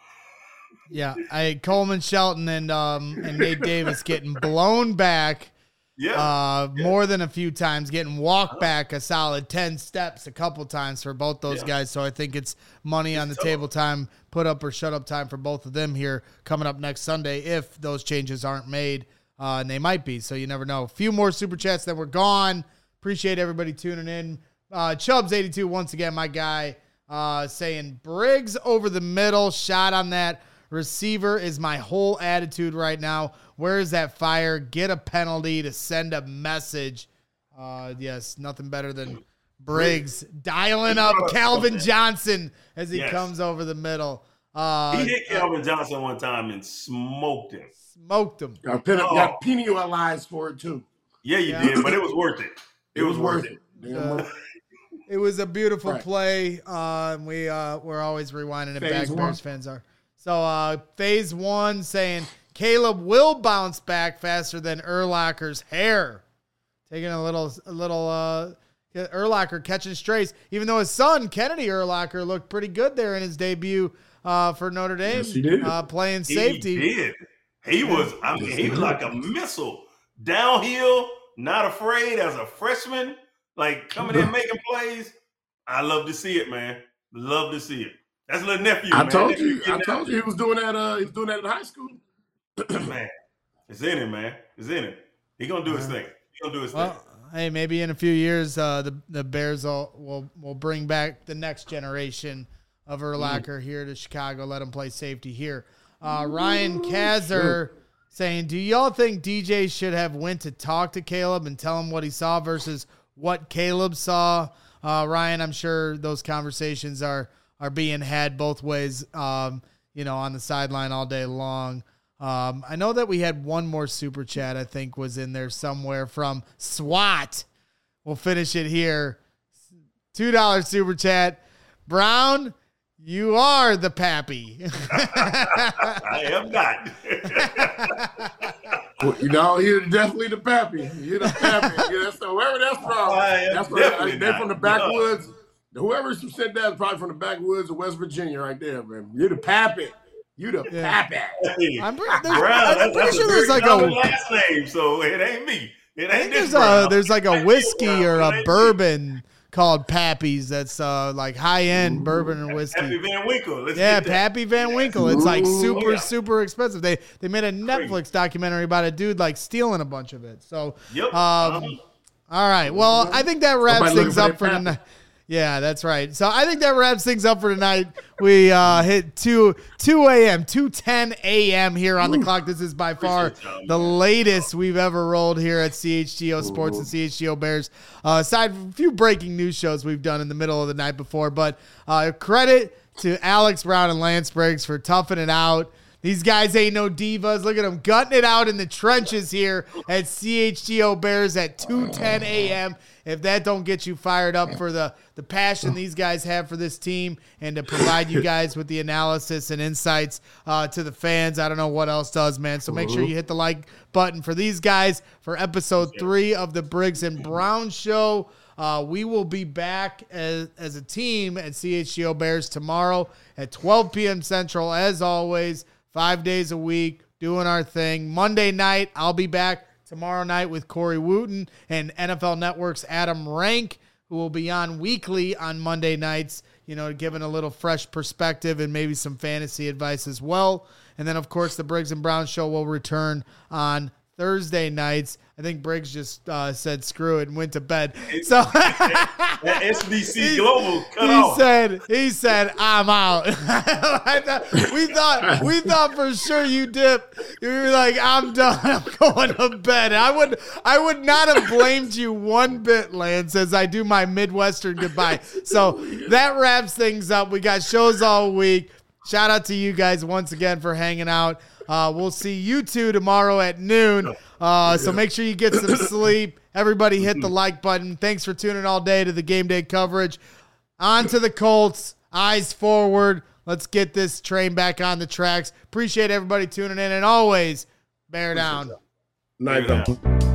Yeah, I Coleman Shelton and um and Nate Davis getting blown back. Yeah, uh, yeah. more than a few times, getting walked back a solid ten steps a couple times for both those Yeah. guys. So I think it's money It's on the tough. table time, put up or shut up time for both of them here coming up next Sunday if those changes aren't made, uh, and they might be. So you never know. A few more super chats that were gone. Appreciate everybody tuning in. Uh, Chubbs eighty-two once again, my guy, uh, saying Briggs over the middle, shot on that receiver is my whole attitude right now. Where is that fire? Get a penalty to send a message. Uh, yes, nothing better than Briggs dialing up Calvin Johnson as he Yes. comes over the middle. Uh, He hit Calvin Johnson one time and smoked him. smoked him. Got, pen- Oh. got penalized for it too. Yeah, you Yeah. did, but it was worth it. It, was, worth it. Damn Uh, worth it. It was a beautiful Right. play. Uh, and we, uh, we're always rewinding it Phase back. one. Bears fans are. So uh, phase one saying Caleb will bounce back faster than Urlacher's hair. Taking a little, a little uh, Urlacher catching strays, even though his son, Kennedy Urlacher, looked pretty good there in his debut uh, for Notre Dame, Yes, he did. Uh, playing He safety. did. He was, I mean, he was like a missile. Downhill, not afraid as a freshman, like coming in making plays. I love to see it, man. Love to see it. That's little nephew, I man. told Nephew you. I getting told you he was doing that. Uh, he was doing that in high school. out. Man, it's in him, man. It's in him. He gonna do his thing. He gonna do his Well, thing. hey, maybe in a few years, uh, the the Bears will, will will bring back the next generation of Urlacher here to Chicago. Let him play safety here. Uh, Ryan Kazer saying, "Do y'all think D J should have went to talk to Caleb and tell him what he saw versus what Caleb saw?" Uh, Ryan, I'm sure those conversations are are being had both ways. Um, you know, on the sideline all day long. Um, I know that we had one more super chat, I think was in there somewhere from SWAT. We'll finish it here. two dollars super chat. Brown, you are the pappy. I am not. Well, you know, you're definitely the pappy. You're the pappy. Yeah, that's whoever that's from. I am That's from, definitely they're not. from the backwoods. Whoever said that is probably from the backwoods of West Virginia, right there, man. You're the pappy. You the Yeah. pappy. Hey, I'm pretty, there's, Brown, I'm that's, pretty that's sure a there's very like common a last name, so it ain't me. It I ain't think this there's a Brown. there's like It a ain't whiskey Brown. or It a ain't me. bourbon called Pappy's that's uh like high end bourbon and Happy whiskey. Van Winkle. Let's Yeah, get that. Pappy Van Winkle. It's like Ooh, super, yeah. super expensive. They they made a Netflix documentary about a dude like stealing a bunch of it. So, Yep. um, Uh-huh. all right. Well, I think that wraps Somebody looking things for up that for Pappy. tonight. Yeah, that's right. So I think that wraps things up for tonight. We uh, hit two two a.m. two ten a.m. here on the clock. This is by far Appreciate y'all, the man. latest we've ever rolled here at C H G O Sports and C H G O Bears. Uh, aside from a few breaking news shows we've done in the middle of the night before, but uh, credit to Alex Brown and Lance Briggs for toughing it out. These guys ain't no divas. Look at them gutting it out in the trenches here at C H G O Bears at two ten a.m. If that don't get you fired up for the, the passion these guys have for this team and to provide you guys with the analysis and insights uh, to the fans, I don't know what else does, man. So make sure you hit the like button for these guys for episode three of the Briggs and Brown Show. Uh, we will be back as, as a team at C H G O Bears tomorrow at twelve p.m. Central, as always. Five days a week, doing our thing. Monday night, I'll be back tomorrow night with Corey Wooten and N F L Network's Adam Rank, who will be on weekly on Monday nights, you know, giving a little fresh perspective and maybe some fantasy advice as well. And then, of course, the Briggs and Brown Show will return on Thursday nights. I think Briggs just uh, said screw it and went to bed. So That S B C Global cut he off. said, he said, I'm out. I thought, we thought, we thought for sure you dip. You were like, I'm done. I'm going to bed. I would, I would not have blamed you one bit, Lance, as I do my Midwestern goodbye. So that wraps things up. We got shows all week. Shout out to you guys once again for hanging out. Uh, we'll see you two tomorrow at noon. Uh, so make sure you get some sleep. Everybody hit the like button. Thanks for tuning all day to the game day coverage. On to the Colts. Eyes forward. Let's get this train back on the tracks. Appreciate everybody tuning in, and always bear down. Night Bear down.